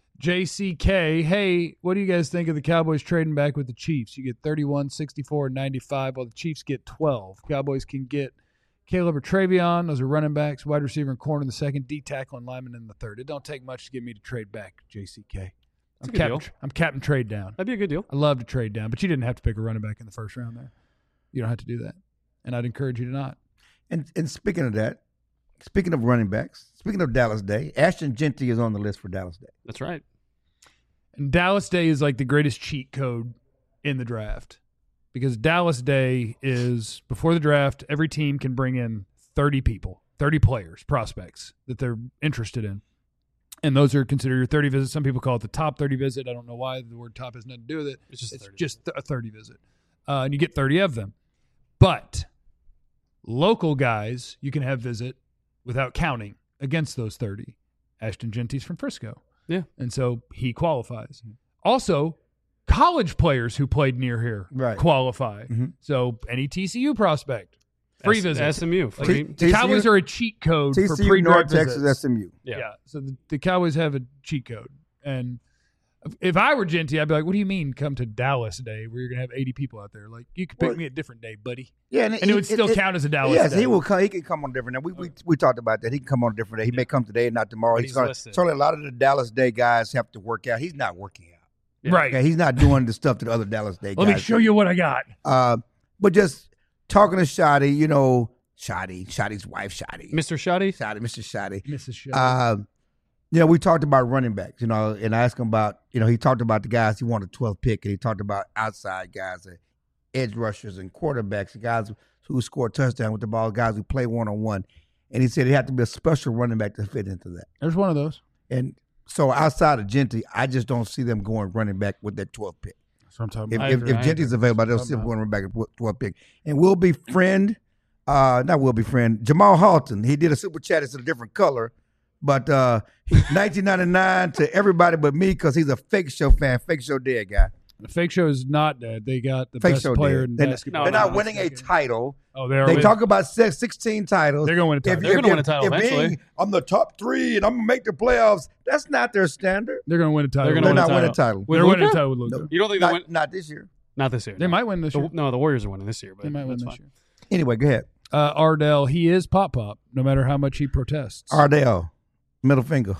JCK, hey, what do you guys think of the Cowboys trading back with the Chiefs? You get 31, 64, and 95, while the Chiefs get 12. Cowboys can get Caleb or Travion. Those are running backs, wide receiver and corner in the second, D tackle and lineman in the third. It don't take much to get me to trade back, JCK. a good deal. I'm Captain Trade Down. That'd be a good deal. I love to trade down, but you didn't have to pick a running back in the first round there. You don't have to do that. And I'd encourage you to not. And speaking of that, speaking of running backs, speaking of Dallas Day, Ashton Genty is on the list for Dallas Day. That's right. And Dallas Day is like the greatest cheat code in the draft because Dallas Day is before the draft, every team can bring in 30 people, 30 players, prospects that they're interested in. And those are considered your 30 visits. Some people call it the top 30 visit. I don't know why the word top has nothing to do with it. It's just It's 30. just a 30 visit. And you get 30 of them. But local guys you can have visit without counting against those 30. Ashton Genty's from Frisco. Yeah. And so he qualifies. Also, college players who played near here Right. qualify. Mm-hmm. So any TCU prospect, free visit. SMU. Free. The Cowboys are a cheat code for TCU, pre-draft North Texas, visits. SMU. Yeah. So the Cowboys have a cheat code. And If I were Genty, I'd be like, "What do you mean, come to Dallas Day, where you're gonna have 80 people out there? Like, you could pick me a different day, buddy." Yeah, And it would still count as a Dallas Yes, Day. he will come. He can come on a different day. We talked about that. He can come on a different day. He may come today and not tomorrow. But He's he's gonna. listed. Certainly, a lot of the Dallas Day guys have to work out. He's not working out. Right. Okay, he's not doing the stuff that the other Dallas Day guys. Let me show you what I got. But just talking to Shotty, Shotty's wife, Shotty, Mr. Shotty? Mr. Shotty. Mrs. Show. We talked about running backs, and I asked him about, he talked about the guys he wanted 12th pick, and he talked about outside guys, edge rushers and quarterbacks, guys who score touchdown with the ball, guys who play one-on-one. And he said it had to be a special running back to fit into that. There's one of those. And so outside of Genty, I just don't see them going running back with that 12th pick. That's what I'm talking If, about. if, if Genty's available, they'll see him going running back at 12th pick. And Jamal Halton, he did a super chat. It's a different color. But 1999 to everybody but me because he's a Fake Show fan, Fake Show dead guy. The Fake Show is not dead. They got the Fake best Show player dead. in They're, basketball. they're not winning a title. Oh, they are. They talk about 16 titles. They're going to win a title. They're gonna win a title eventually. I'm the top 3 and I'm going to make the playoffs. That's not their standard. They're going to win a title. They're They're gonna not winning a title. With They're winning a Luka? title with Luka. No. You don't think they win? Not this year. Not this year. They might win this year. No, the Warriors are winning this year. But They might win that's this fine. year. Anyway, go ahead. Ardell, he is Pop, no matter how much he protests. Ardell, middle finger.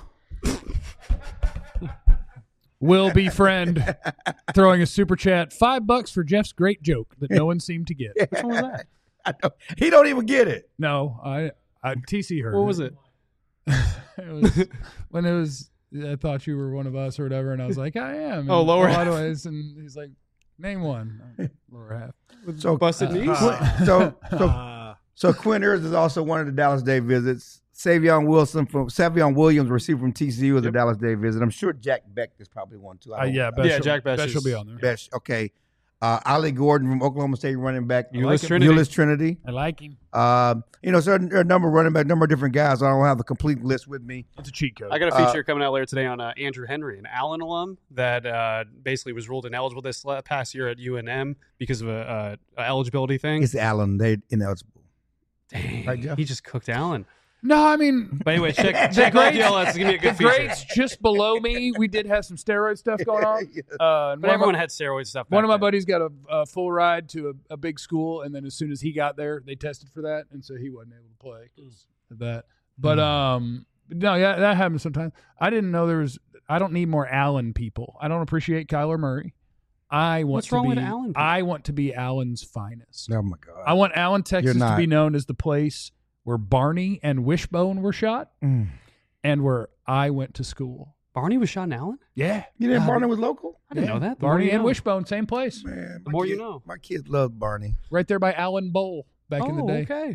Will be friend throwing a super chat. $5 for Jeff's great joke that no one seemed to get. Which one was that? I know. He don't even get it. No, I TC heard. What was it? It was when it was. I thought you were one of us or whatever, and I was like, I am. And Oh, lower a lot half. of ways, and he's like, name one. Lower half. So Busted knees? So Quinn Ewers is also one of the Dallas Day visits. Savion Williams, receiver from TCU, is a Dallas Day visit. I'm sure Jack Beck is probably one too. Jack Besh will be on there. Besh, okay. Ollie Gordon from Oklahoma State, running back. Euless Trinity. I like him. So there are a number of running back, number of different guys. I don't have the complete list with me. It's a cheat code. I got a feature coming out later today on Andrew Henry, an Allen alum that basically was ruled ineligible this past year at UNM because of a eligibility thing. It's Allen. They're ineligible. Dang, Right, Jeff? he just cooked Allen. No, I mean, But anyway, check all DLS. It's gonna be a good the feature. grades just below me. We did have some steroid stuff going on. And But everyone had steroid stuff. One of my back then. buddies got a full ride to a big school, and then as soon as he got there, they tested for that, and so he wasn't able to play because of that. But no, yeah, that happens sometimes. I didn't know there was. I don't need more Allen people. I don't appreciate Kyler Murray. What's wrong with Allen people? I want to be Allen's finest. Oh my God. I want Allen, Texas, to not. be known as the place where Barney and Wishbone were shot, and where I went to school. Barney was shot in Allen? Yeah, You didn't Barney was local? I didn't know that. The more Barney you and know. Wishbone, same place, Man, The more you know. My kids love Barney. right there by Allen Bowl back in the day. Okay.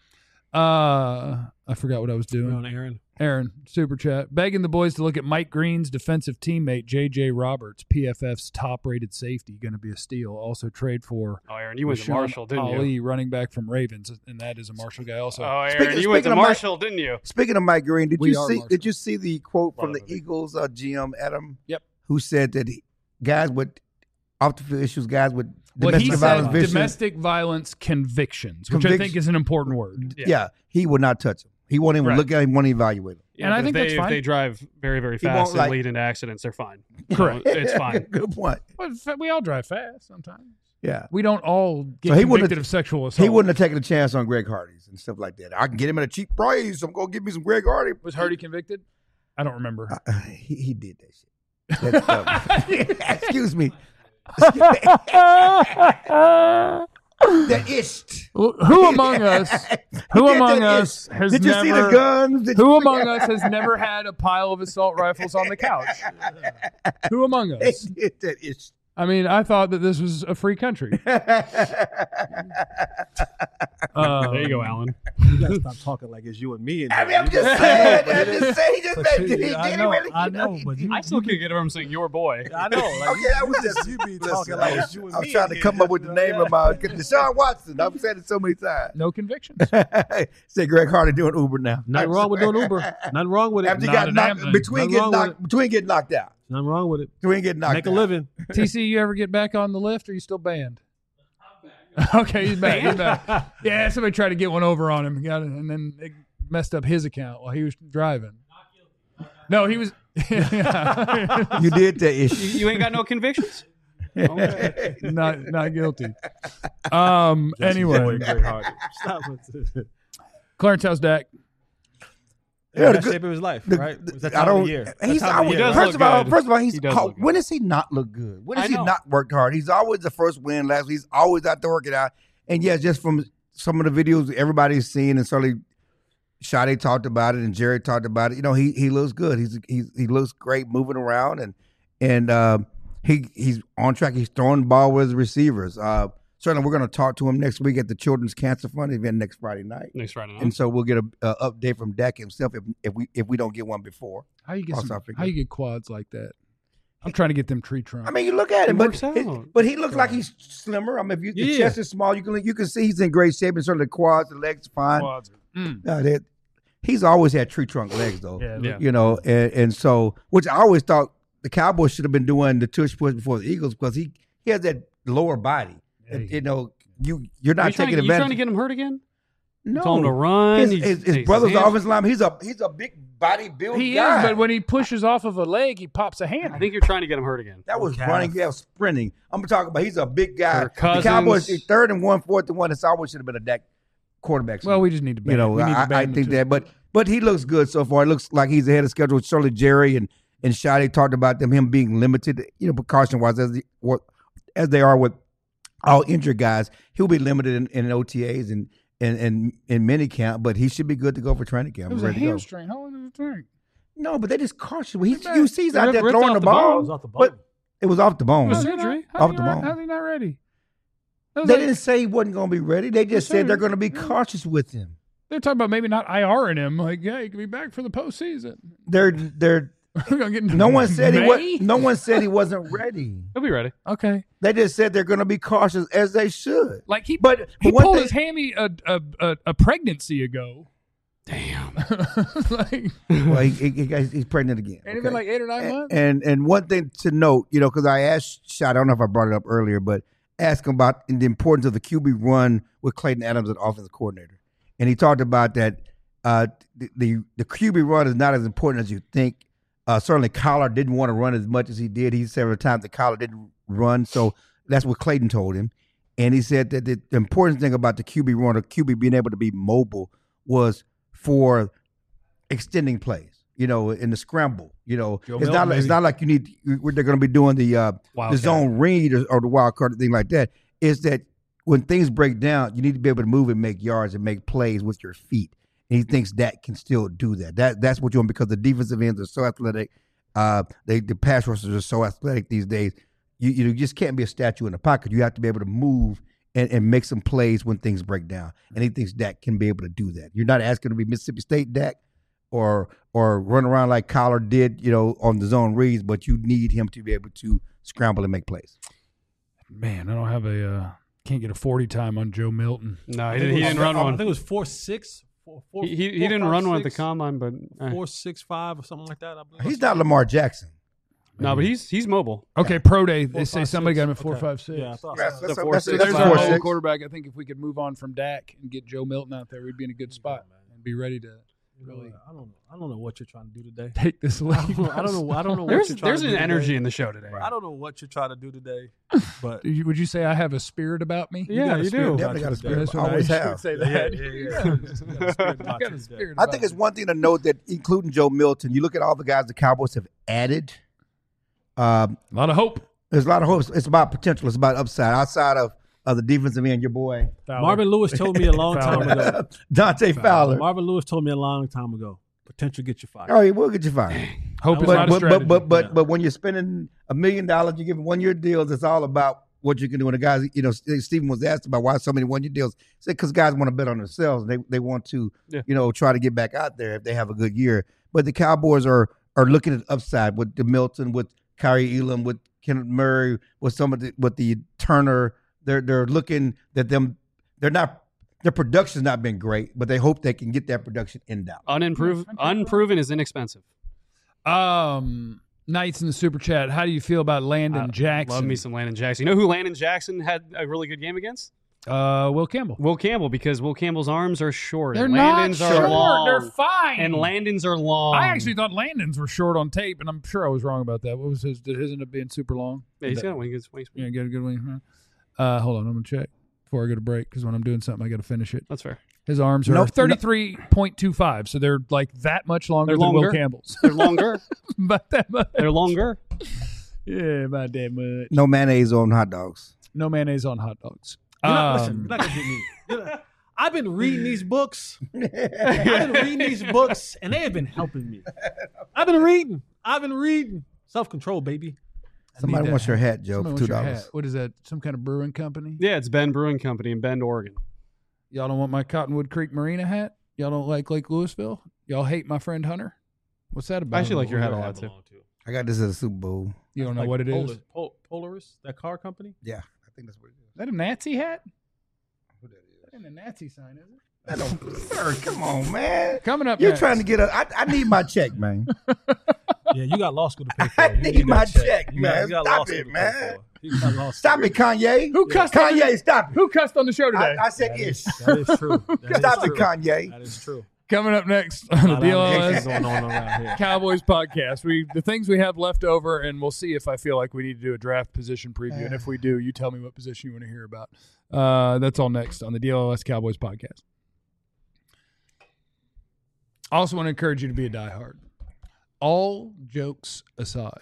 I forgot what I was doing. on Aaron. Aaron, super chat. Begging the boys to look at Mike Green's defensive teammate, J.J. Roberts, PFF's top-rated safety, going to be a steal. Also trade for Oh, Aaron, you went to Rashawn Marshall, didn't Ali, you? running back from Ravens, and that is a Marshall guy also. Oh, Aaron, Speaking- you went to speaking of Marshall, didn't you? Speaking of Mike Green, We are Marshall. did you see the quote from Love the it. Eagles GM Adam? Yep. Who said that guys with off the field issues, guys with Well, domestic he violence said victims, domestic violence convictions, which I think is an important word. yeah, he would not touch them. He won't even Right. look at him, won't evaluate him. And I but think if that's fine. If they drive very, very He won't, fast and like- lead into accidents, they're fine. Correct. It's fine. Good point. Well, we all drive fast sometimes. Yeah. We don't all get So he wouldn't convicted have- of sexual assault. He wouldn't have taken a chance on Greg Hardy's and stuff like that. I can get him at a cheap price. I'm going to give me some Greg Hardy. Was Hardy convicted? I don't remember. He did that shit. That's excuse me. The ist. Who among us? Who He did among that us ist. has Did you never? see the guns? Did Who you- among us has never had a pile of assault rifles on the couch? Who among They us? did that ist. I mean, I thought that this was a free country. There you go, Alan. You gotta stop talking like it's you and me. In I mean, here. I'm just saying. I'm just saying. He just But made see, he I did know, really. I know, but you, I still can't get over him saying your boy. I know. Like, Okay, I was just you be listen, talking like it's you and I me. was trying to in come here. up with the name of my Deshaun Watson. I've said it so many times. No convictions. Say Greg Hardy doing Uber now. Nothing wrong with doing Uber. Nothing wrong with it. After he Not got a knocked, damn thing. between Nothing wrong getting knocked out. Nothing wrong with it. Between getting knocked Make a out. living. TC, you ever get back on the lift, or are you still banned? Okay, he's back. He's back. Yeah, somebody tried to get one over on him, got it, and then it messed up his account while he was driving. No, he You did that issue. You ain't got no convictions? Okay. not guilty. Anyway, Stop it. Clarence, how's Dak? Yeah, Best shape of his life, right? It's that I time of don't. the year. He's That time of always, the year, does right? first look of good. all, he's He does look good. when does he not look good? When I does he know. not work hard? He's always the first win last week. He's always out there working out. And yes, just from some of the videos everybody's seen, and certainly Sade talked about it, and Jerry talked about it. You know, he looks good. He looks great moving around, and he's on track. He's throwing the ball with his receivers. Certainly, we're going to talk to him next week at the Children's Cancer Fund event next Friday night. Next Friday night. And so we'll get a update from Dak himself if we don't get one before. How you get Cross Africa. how you get quads like that? I'm trying to get them tree trunks. I mean, you look at him, It but works out. but he looks like he's slimmer. I mean, if the Yeah. chest is small, you can see he's in great shape, and certainly the quads, the legs, fine. Quads. He's always had tree trunk legs, though. Yeah. You know, and so which I always thought the Cowboys should have been doing the tush push before the Eagles because he has that lower body. You know, you're not taking You advantage. trying to get him hurt again? No, Told him to run. His brother's offensive lineman. He's a big body build He guy. is, but when he pushes off of a leg, he pops a hand. I think you're trying to get him hurt again. That was calf. running, that was sprinting. I'm talking about he's a big guy. Kirk The Cousins. Cowboys 3rd and 1, 4th and 1. It's always should have been a Dak quarterback. Well, we just need to ban. you know, we need to I ban think them that, but he looks good so far. It looks like he's ahead of schedule. Certainly Jerry and Sade talked about him being limited, precaution wise as they are with all injured guys. He'll be limited in OTAs and in minicamp, but he should be good to go for training camp. It was a ready to go. hamstring. How long did it take? No, but they just caution. You see, he's They out there ripped throwing off the the ball. ball. It was off the bone. But it was off the bone. Was They surgery? Off the bone. How's he not ready? That was didn't say he wasn't going to be ready. They just said sir. they're going to be cautious with him. They're talking about maybe not IRing him. Like, yeah, he could be back for the postseason. They're We're gonna get into no one said he May? was. No one said he wasn't ready. He'll be ready. Okay, They just said they're going to be cautious as they should. like he But he one pulled thing- his hammy a pregnancy ago. Damn. like, Well, he's pregnant again. ain't it been like 8 or 9 months? And one thing to note, because I asked Shot, I don't know if I brought it up earlier, but asked him about the importance of the QB run with Clayton Adams as offensive coordinator, and he talked about that the QB run is not as important as you think. Certainly, Collar didn't want to run as much as he did. He several times that Collar didn't run, so that's what Clayton told him. And he said that the important thing about the QB run, or QB being able to be mobile, was for extending plays. In the scramble. It's not like they're going to be doing the zone read or the wild card thing like that. Is that when things break down, you need to be able to move and make yards and make plays with your feet. And he thinks that can still do that. That's what you want, because the defensive ends are so athletic. The pass rushers are so athletic these days. You just can't be a statue in the pocket. You have to be able to move and make some plays when things break down. And he thinks Dak can be able to do that. You're not asking to be Mississippi State Dak or run around like Collar did, on the zone reads, but you need him to be able to scramble and make plays. Man, I don't have can't get a 40 time on Joe Milton. No, he didn't run I one. think it was 4.6. He didn't run one at the combine, but 4.65 or something like that. I believe. He's not Lamar Jackson. no, but he's mobile. Okay, pro day. They say 4.56. somebody got him at Okay. 4.56. Yeah, I thought That's- so. that's- four, that's- six, that's There's a our 4.6. old quarterback. I think if we could move on from Dak and get Joe Milton out there, we'd be in a good spot and be ready to really I don't know what you're trying to do today. take this league. I don't know what There's you're trying there's to an do energy today. in the show today. I don't know what you're trying to do today, but Would you say I have a spirit about me? Yeah, got a you spirit do. about Definitely you got a today. spirit. That's what Always I have. should say Yeah, that. yeah. You got a spirit I about got you a today. spirit I about think it's me. one thing to note that, including Joe Milton, you look at all the guys the Cowboys have added. A lot of hope. There's a lot of hopes. It's about potential. It's about upside. Outside of the defensive end, your boy Marvin Lewis told me a long time ago. Dante Fowler. Marvin Lewis told me a long time ago. Potential get you fired. Oh, he will get you fired. Hope is But not a strategy. but when you're spending $1 million, you give 1 year deals. It's all about what you can do. And the guys, Stephen was asked about why so many 1 year deals. He said because guys want to bet on themselves. They want to try to get back out there if they have a good year. But the Cowboys are looking at upside with the Milton, with Kyrie Elam, with Kenneth Murray, with the Turner. They're looking at them. Their production's not been great, but they hope they can get that production in Dallas. Unproven is inexpensive. Knights in the super chat. How do you feel about Landon Jackson? Love me some Landon Jackson. You know who Landon Jackson had a really good game against? Will Campbell. Will Campbell, because Will Campbell's arms are short. They're and not Landon's short. are long. They're fine. And Landon's are long. I actually thought Landon's were short on tape, and I'm sure I was wrong about that. What was his? Did his end up being super long? Yeah, he's got a wingspan. Yeah, got a good wing. Hold on, I'm gonna check before I go to break because when I'm doing something, I got to finish it. That's fair. His arms are 33.25, so they're like that much longer than Will Campbell's. They're longer. About that much. They're longer. Yeah, about that much. No mayonnaise on hot dogs. No mayonnaise on hot dogs. Listen, you're not gonna get me. I've been reading these books. and they have been helping me. I've been reading. Self-control, baby. Somebody wants your hat, Joe, for $2. What is that? Some kind of brewing company? Yeah, it's Bend Brewing Company in Bend, Oregon. Y'all don't want my Cottonwood Creek Marina hat? Y'all don't like Lake Louisville? Y'all hate my friend Hunter? What's that about? I actually like your hat a lot, too. I got this at the Super Bowl. You don't know what it is? Polaris, that car company? Yeah, I think that's what it is. Is that a Nazi hat? Who that is? That ain't a Nazi sign, is it? I don't, sir, come on, man. Coming up You're next. trying to get I need my check, man. Yeah, you got law school to pay for. I need my that check, You man. got law Stop school it, to pay man. for. You got law Stop school. it, Kanye. Who cussed on the- Kanye, stop it. Who cussed on the show today? I said ish. That is true. That Stop is it, true. Kanye. That is true. Coming up next on the A lot of DLS action going on around here. Cowboys podcast. The things we have left over, and we'll see if I feel like we need to do a draft position preview. And if we do, you tell me what position you want to hear about. That's all next on the DLS Cowboys podcast. I also want to encourage you to be a diehard. All jokes aside,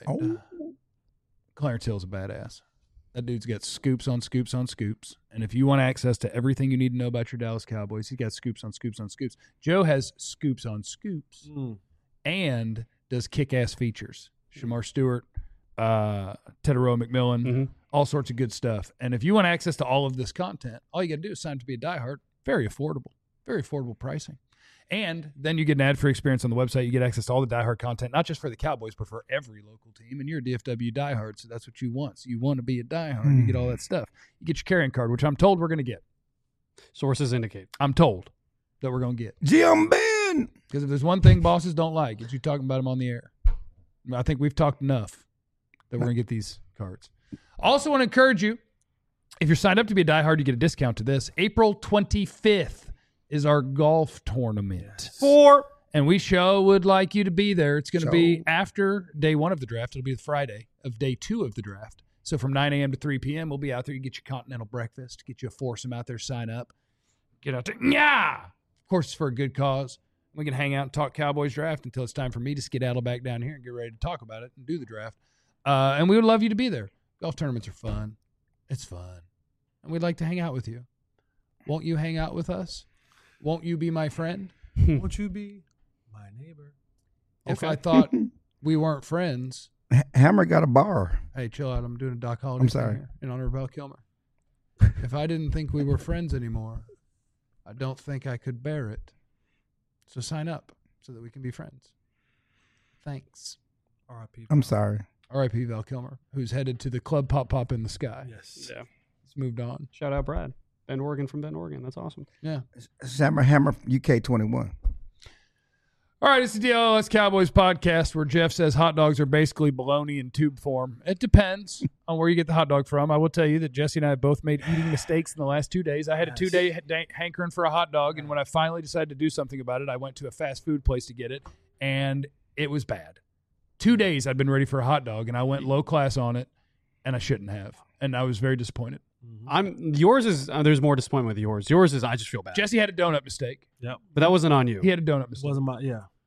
Clarence Hill's a badass. That dude's got scoops on scoops on scoops. And if you want access to everything you need to know about your Dallas Cowboys, he's got scoops on scoops on scoops. Joe has scoops on scoops and does kick-ass features. Shamar Stewart, Teteroa McMillan, all sorts of good stuff. And if you want access to all of this content, all you got to do is sign up to be a diehard. Very affordable pricing. And then you get an ad-free experience on the website. You get access to all the diehard content, not just for the Cowboys, but for every local team. And you're a DFW diehard, so that's what you want. So you want to be a diehard. You get all that stuff. You get your carrying card, which I'm told we're going to get. Sources indicate. I'm told that we're going to get. Jim Ben. Because if there's one thing bosses don't like, it's you talking about them on the air. I think we've talked enough that we're going to get these cards. Also want to encourage you, if you're signed up to be a diehard, you get a discount to this. April 25th. Is our golf tournament. And we would like you to be there. It's going to be after day one of the draft. It'll be the Friday of day two of the draft. So from 9 a.m. to 3 p.m., we'll be out there. You get your continental breakfast, get you a foursome out there, sign up. Get out there. Yeah! Of course, it's for a good cause. We can hang out and talk Cowboys draft until it's time for me to skedaddle back down here and get ready to talk about it and do the draft. And we would love you to be there. Golf tournaments are fun. It's fun. And we'd like to hang out with you. Won't you hang out with us? Won't you be my friend? Won't you be my neighbor? If I thought we weren't friends. Hammer got a bar. Hey, chill out. I'm doing a Doc Holliday I'm sorry. thing here in honor of Val Kilmer. If I didn't think we were friends anymore, I don't think I could bear it. So sign up so that we can be friends. Thanks. R.I.P. I'm sorry. R.I.P. Val Kilmer, who's headed to the Club Pop Pop in the Sky. Yes. Yeah. He's moved on. Shout out Brad. Bend, Oregon from Bend, Oregon. That's awesome. Yeah. Hammer UK 21. All right, it's the DLS Cowboys podcast where Jeff says hot dogs are basically bologna in tube form. It depends on where you get the hot dog from. I will tell you that Jesse and I both made eating mistakes in the last 2 days. I had a 2-day hankering for a hot dog, and when I finally decided to do something about it, I went to a fast food place to get it, and it was bad. 2 days I'd been ready for a hot dog, and I went low class on it, and I shouldn't have, and I was very disappointed. Yours is there's more disappointment with yours. Yours is I just feel bad. Jesse had a donut mistake. Yep. But that wasn't on you. He had a donut It mistake. wasn't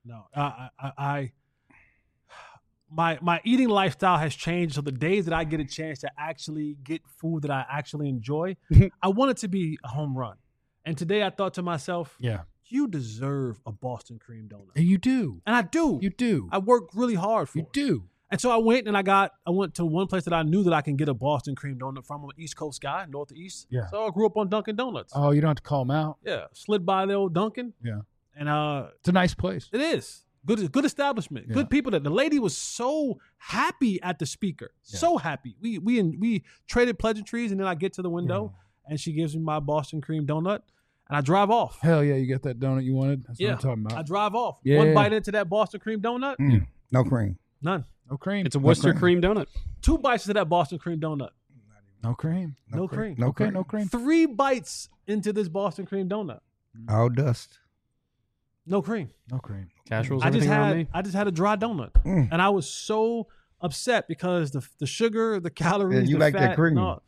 my eating lifestyle has changed. So the days that I get a chance to actually get food that I actually enjoy, I want it to be a home run. And today I thought to myself, Yeah. you deserve a Boston cream donut. And you do. And I do. You do. I work really hard for You it. do. And so I went and I went to one place that I knew that I can get a Boston cream donut from. I'm an East Coast guy, Northeast. Yeah. So I grew up on Dunkin' Donuts. Oh, you don't have to call him out. Yeah. Slid by the old Dunkin'. Yeah. And It's a nice place. it is. Good establishment. Yeah. Good people. The lady was so happy at the speaker. Yeah. So happy. We traded pleasantries, and then I get to the window and she gives me my Boston cream donut and I drive off. Hell yeah, you got that donut you wanted? That's what I'm talking about. I drive off. Yeah. One bite into that Boston cream donut, No cream. none. No cream. It's a Worcester cream donut. 2 bites into that Boston cream donut. No cream. No cream. No Okay, cream. no cream. 3 bites into this Boston cream donut. All dust. No cream. No cream. Cash rolls I just everything around me. had a dry donut, and I was so upset because the sugar, the calories, And you the like fat, that cream. no.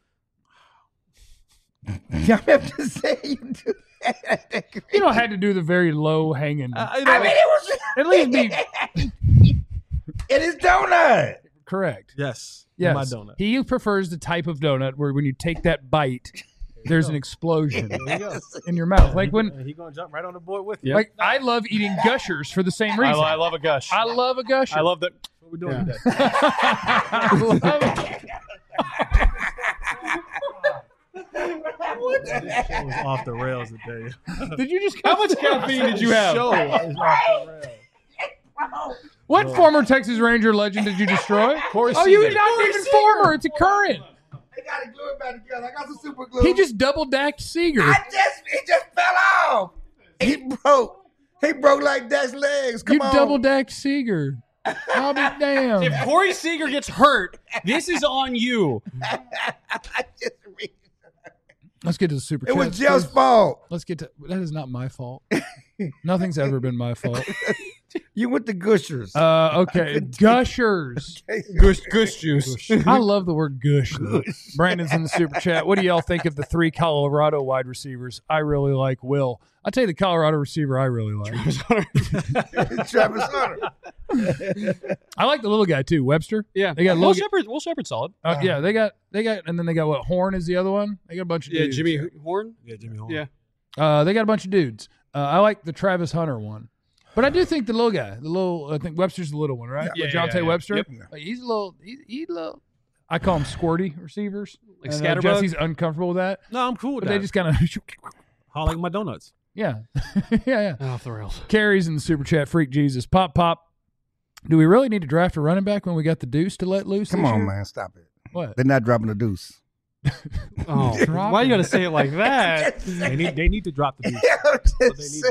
Yeah, I have to say you do. You don't have to do the very low hanging. You know, I mean, it was At least be it is donut. correct. yes, Yes. my donut. He prefers the type of donut where when you take that bite, there's an explosion There you go. in your mouth. Like when, And he gonna jump right on the board with you. Yep. like I love eating gushers for the same reason. I love a gush. I love a gusher. I love that. What we doing today? I love- This show was off the rails today. Did you just? How much caffeine did you have? Show is off the rails. What former Texas Ranger legend did you destroy? Corey Oh, you Seager. not even former. It's a current. I got to glue it back together. I got some super glue. He just double dacked Seager. it just fell off. He broke. He broke like Dak's legs. Come You on. double dacked Seager. I'll be damned. If Corey Seager gets hurt, this is on you. Let's get to the super It was chats, Jeff's please. fault. Let's get to that. Is not my fault. Nothing's ever been my fault. You went to Gushers. Okay, gushers. Gush juice. I love the word gush. Though. Brandon's in the super chat. What do y'all think of the 3 Colorado wide receivers? I really like Will. I'll tell you the Colorado receiver I really like. Travis Hunter. I like the little guy too, Webster. Yeah. They got Will little. Shepard. Will Shepard's solid. Yeah, they got, and then they got what? Horn is the other one. They got a bunch of Yeah, dudes. Jimmy Horn. Yeah, Jimmy Horn. Yeah. They got a bunch of dudes. I like the Travis Hunter one, but I do think the little guy, I think Webster's the little one, right? Yeah, DeJounte yeah. Webster. Yep. Like, he's a little. He's a little. I call him squirty receivers. Like And, Scatterbug? Jesse's uncomfortable with that, No, I'm cool with but that. they just kind of. I like my donuts. Yeah, yeah. Off the rails. Carries in the super chat. Freak Jesus. Pop. Do we really need to draft a running back when we got the deuce to let loose? Come this on, year? man. Stop it. What? They're not dropping the deuce. Oh, why you gotta say it like that? They need to drop the beat.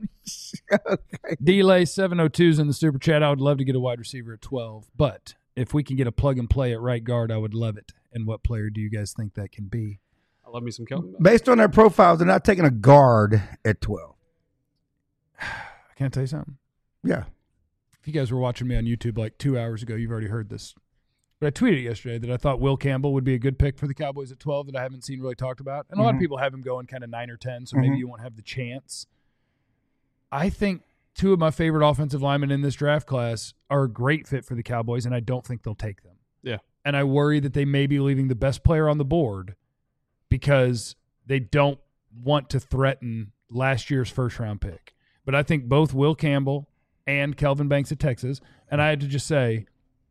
Delay 702's in the super chat. I would love to get a wide receiver at 12, but if we can get a plug and play at right guard, I would love it. And what player do you guys think that can be? I love me some Kelvin. Based on their profiles, they're not taking a guard at 12. Can I tell you something? Yeah. If you guys were watching me on YouTube like 2 hours ago, you've already heard this. But I tweeted yesterday that I thought Will Campbell would be a good pick for the Cowboys at 12 that I haven't seen really talked about. And a lot of people have him going kind of 9 or 10, so maybe you won't have the chance. I think 2 of my favorite offensive linemen in this draft class are a great fit for the Cowboys, and I don't think they'll take them. Yeah. And I worry that they may be leaving the best player on the board because they don't want to threaten last year's first-round pick. But I think both Will Campbell and Kelvin Banks at Texas, and I had to just say,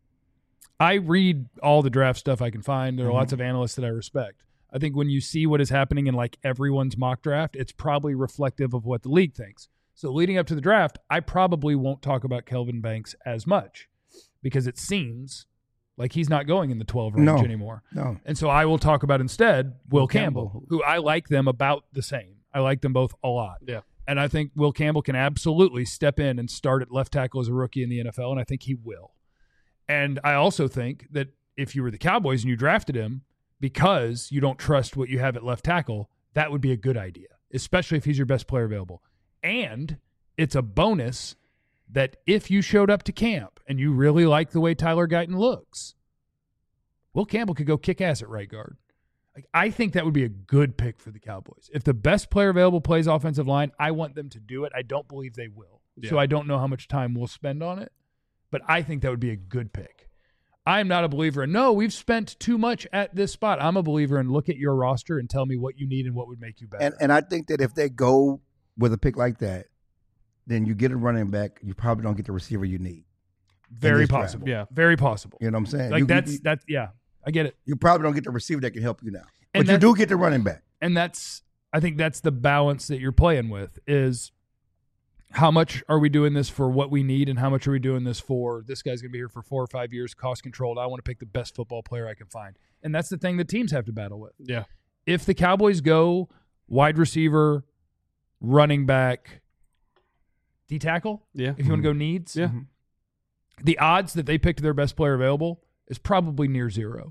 I read all the draft stuff I can find. There are lots of analysts that I respect. I think when you see what is happening in like everyone's mock draft, it's probably reflective of what the league thinks. So leading up to the draft, I probably won't talk about Kelvin Banks as much because it seems like he's not going in the 12 range anymore. No. And so I will talk about instead Will Campbell. Campbell, who I like them about the same. I like them both a lot. Yeah. And I think Will Campbell can absolutely step in and start at left tackle as a rookie in the NFL, and I think he will. And I also think that if you were the Cowboys and you drafted him because you don't trust what you have at left tackle, that would be a good idea, especially if he's your best player available. And it's a bonus that if you showed up to camp and you really like the way Tyler Guyton looks, Will Campbell could go kick ass at right guard. Like, I think that would be a good pick for the Cowboys. If the best player available plays offensive line, I want them to do it. I don't believe they will. Yeah. So I don't know how much time we'll spend on it, but I think that would be a good pick. I'm not a believer in, no, we've spent too much at this spot. I'm a believer in look at your roster and tell me what you need and what would make you better. And I think that if they go with a pick like that, then you get a running back, you probably don't get the receiver you need. Very this draft. possible. Yeah. Very possible. You know what I'm saying? Like You- that's you, yeah, I get it. you probably don't get the receiver that can help you now. And But you that- do get the running back. And I think that's the balance that you're playing with is how much are we doing this for what we need and how much are we doing this for this guy's going to be here for 4 or 5 years, cost controlled. I want to pick the best football player I can find. And that's the thing that teams have to battle with. Yeah. If the Cowboys go wide receiver, running back, D-tackle, Yeah. if you want to go needs, Yeah. the odds that they picked their best player available is probably near zero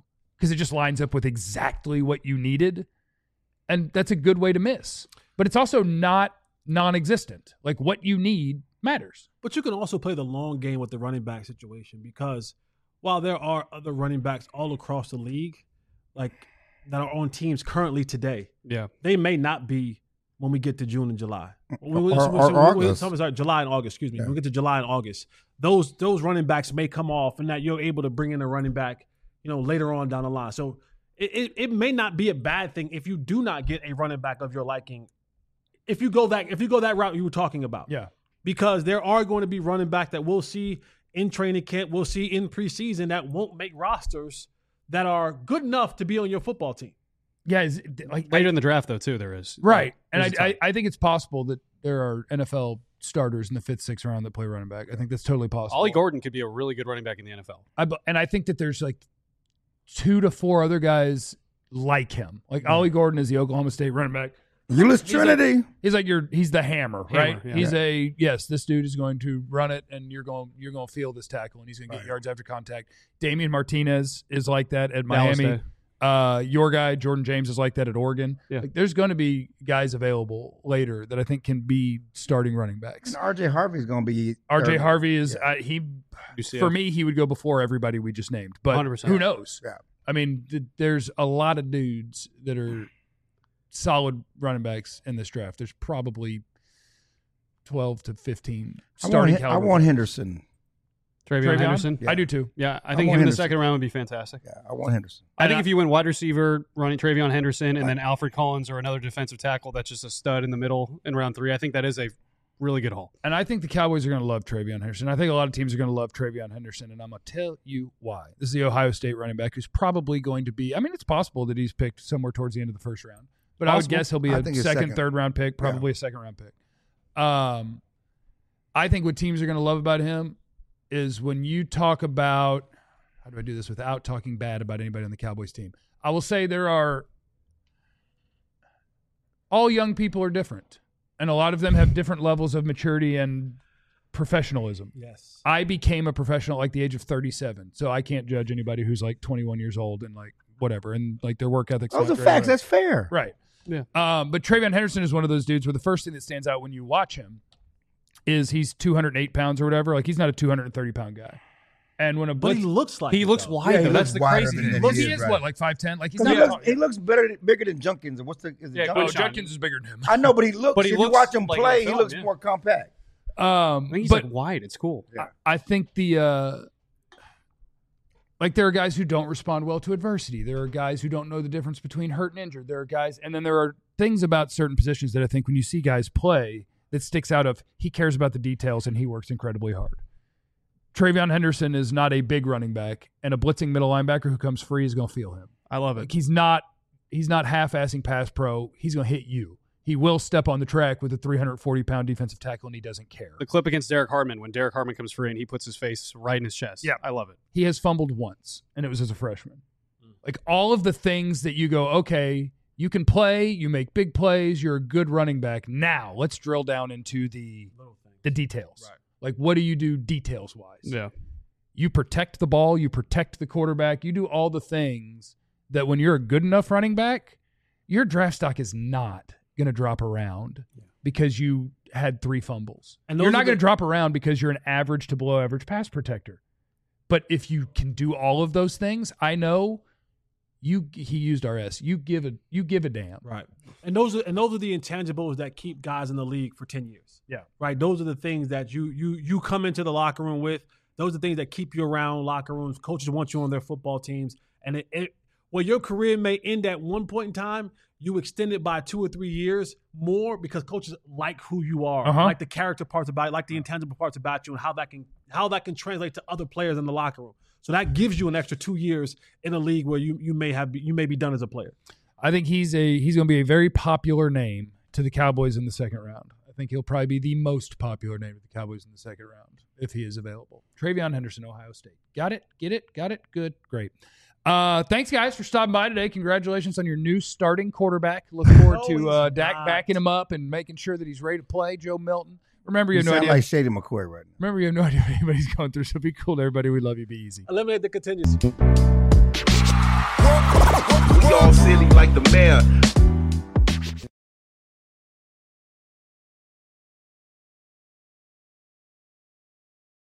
because it just lines up with exactly what you needed. And that's a good way to miss. But it's also not non-existent. Like what you need matters. But you can also play the long game with the running back situation, because while there are other running backs all across the league, like that are on teams currently today, they may not be when we get to June and July. July and August, excuse me. When we get to July and August, those running backs may come off, and that you're able to bring in a running back, later on down the line. So it may not be a bad thing if you do not get a running back of your liking. If you go that route you were talking about. Yeah. Because there are going to be running back that we'll see in training camp, we'll see in preseason that won't make rosters that are good enough to be on your football team. Yeah, later in the draft though too there is. Right. And I think it's possible that there are NFL starters in the 5th, 6th round that play running back. I think that's totally possible. Ollie Gordon could be a really good running back in the NFL. And I think that there's like 2 to 4 other guys like him. Like Ollie Gordon is the Oklahoma State running back. Euless Trinity. He's the hammer, right? Yeah. This dude is going to run it, and you're going to feel this tackle, and he's going to get yards after contact. Damian Martinez is like that at Miami. Your guy Jordan James is like that at Oregon. Yeah. Like, there's going to be guys available later that I think can be starting running backs. And R.J. Harvey's going to be. R.J. Harvey is for me. He would go before everybody we just named, but 100%. Who knows? Yeah. I mean, there's a lot of dudes that are solid running backs in this draft. There's probably 12 to 15 starting caliber. I want Henderson. Travion Henderson? Yeah. I do too. Yeah, I think him in the second round would be fantastic. Yeah, I want Henderson. I think if you went wide receiver, running Travion Henderson, and then Alfred Collins or another defensive tackle that's just a stud in the middle in round 3, I think that is a really good haul. And I think the Cowboys are going to love Travion Henderson. I think a lot of teams are going to love Travion Henderson, and I'm going to tell you why. This is the Ohio State running back who's probably going to be – I mean, it's possible that he's picked somewhere towards the end of the first round. But I would guess he'll be a second, third round pick, probably a second round pick. I think what teams are going to love about him is when you talk about – how do I do this without talking bad about anybody on the Cowboys team? I will say there are – all young people are different, and a lot of them have different levels of maturity and professionalism. Yes. I became a professional at like the age of 37, so I can't judge anybody who's like 21 years old and like whatever, and like their work ethics. Those are facts. That's fair. Right. Yeah. But Travion Henderson is one of those dudes where the first thing that stands out when you watch him is he's 208 pounds or whatever. Like he's not a 230-pound guy. And when but he looks like he looks wide. Yeah, that's the crazy thing. He is what, like 5'10"? Like he's not. He looks bigger than Junkins. Junkins is bigger than him. I know, but he looks. But he if looks you watch him like play, NFL, he looks more compact. I think he's like wide. It's cool. Yeah. I think like there are guys who don't respond well to adversity. There are guys who don't know the difference between hurt and injured. There are guys, and then there are things about certain positions that I think when you see guys play that sticks out of he cares about the details and he works incredibly hard. Travion Henderson is not a big running back, and a blitzing middle linebacker who comes free is going to feel him. I love it. Like he's not half-assing pass pro. He's going to hit you. He will step on the track with a 340-pound defensive tackle, and he doesn't care. The clip against Derek Hartman, when Derek Hartman comes free and he puts his face right in his chest. Yeah. I love it. He has fumbled once, and it was as a freshman. Like all of the things that you go, okay, you can play, you make big plays, you're a good running back. Now let's drill down into the details. Right. Like what do you do details-wise? Yeah. You protect the ball, you protect the quarterback, you do all the things that when you're a good enough running back, your draft stock is not going to drop around because you had 3 fumbles. And you're not going to drop around because you're an average to below average pass protector. But if you can do all of those things, I know he used RS. You give a damn. Right. And those are the intangibles that keep guys in the league for 10 years. Yeah. Right. Those are the things that you come into the locker room with. Those are the things that keep you around locker rooms. Coaches want you on their football teams. And well, your career may end at one point in time. You extend it by 2 or 3 years more because coaches like who you are, like the character parts about it, like the intangible parts about you, and how that can translate to other players in the locker room. So that gives you an extra 2 years in a league where you may be done as a player. I think he's going to be a very popular name to the Cowboys in the second round. I think he'll probably be the most popular name to the Cowboys in the second round if he is available. Travion Henderson, Ohio State. Got it? Get it? Got it? Good. Great. Thanks, guys, for stopping by today. Congratulations on your new starting quarterback. Look forward to Dak backing him up and making sure that he's ready to play. Joe Milton. Remember, you have no idea. Like Shady McCoy right now. Remember, you have no idea what anybody's going through, so be cool to everybody. We love you. Be easy. Eliminate the contingency. We all silly like the mayor.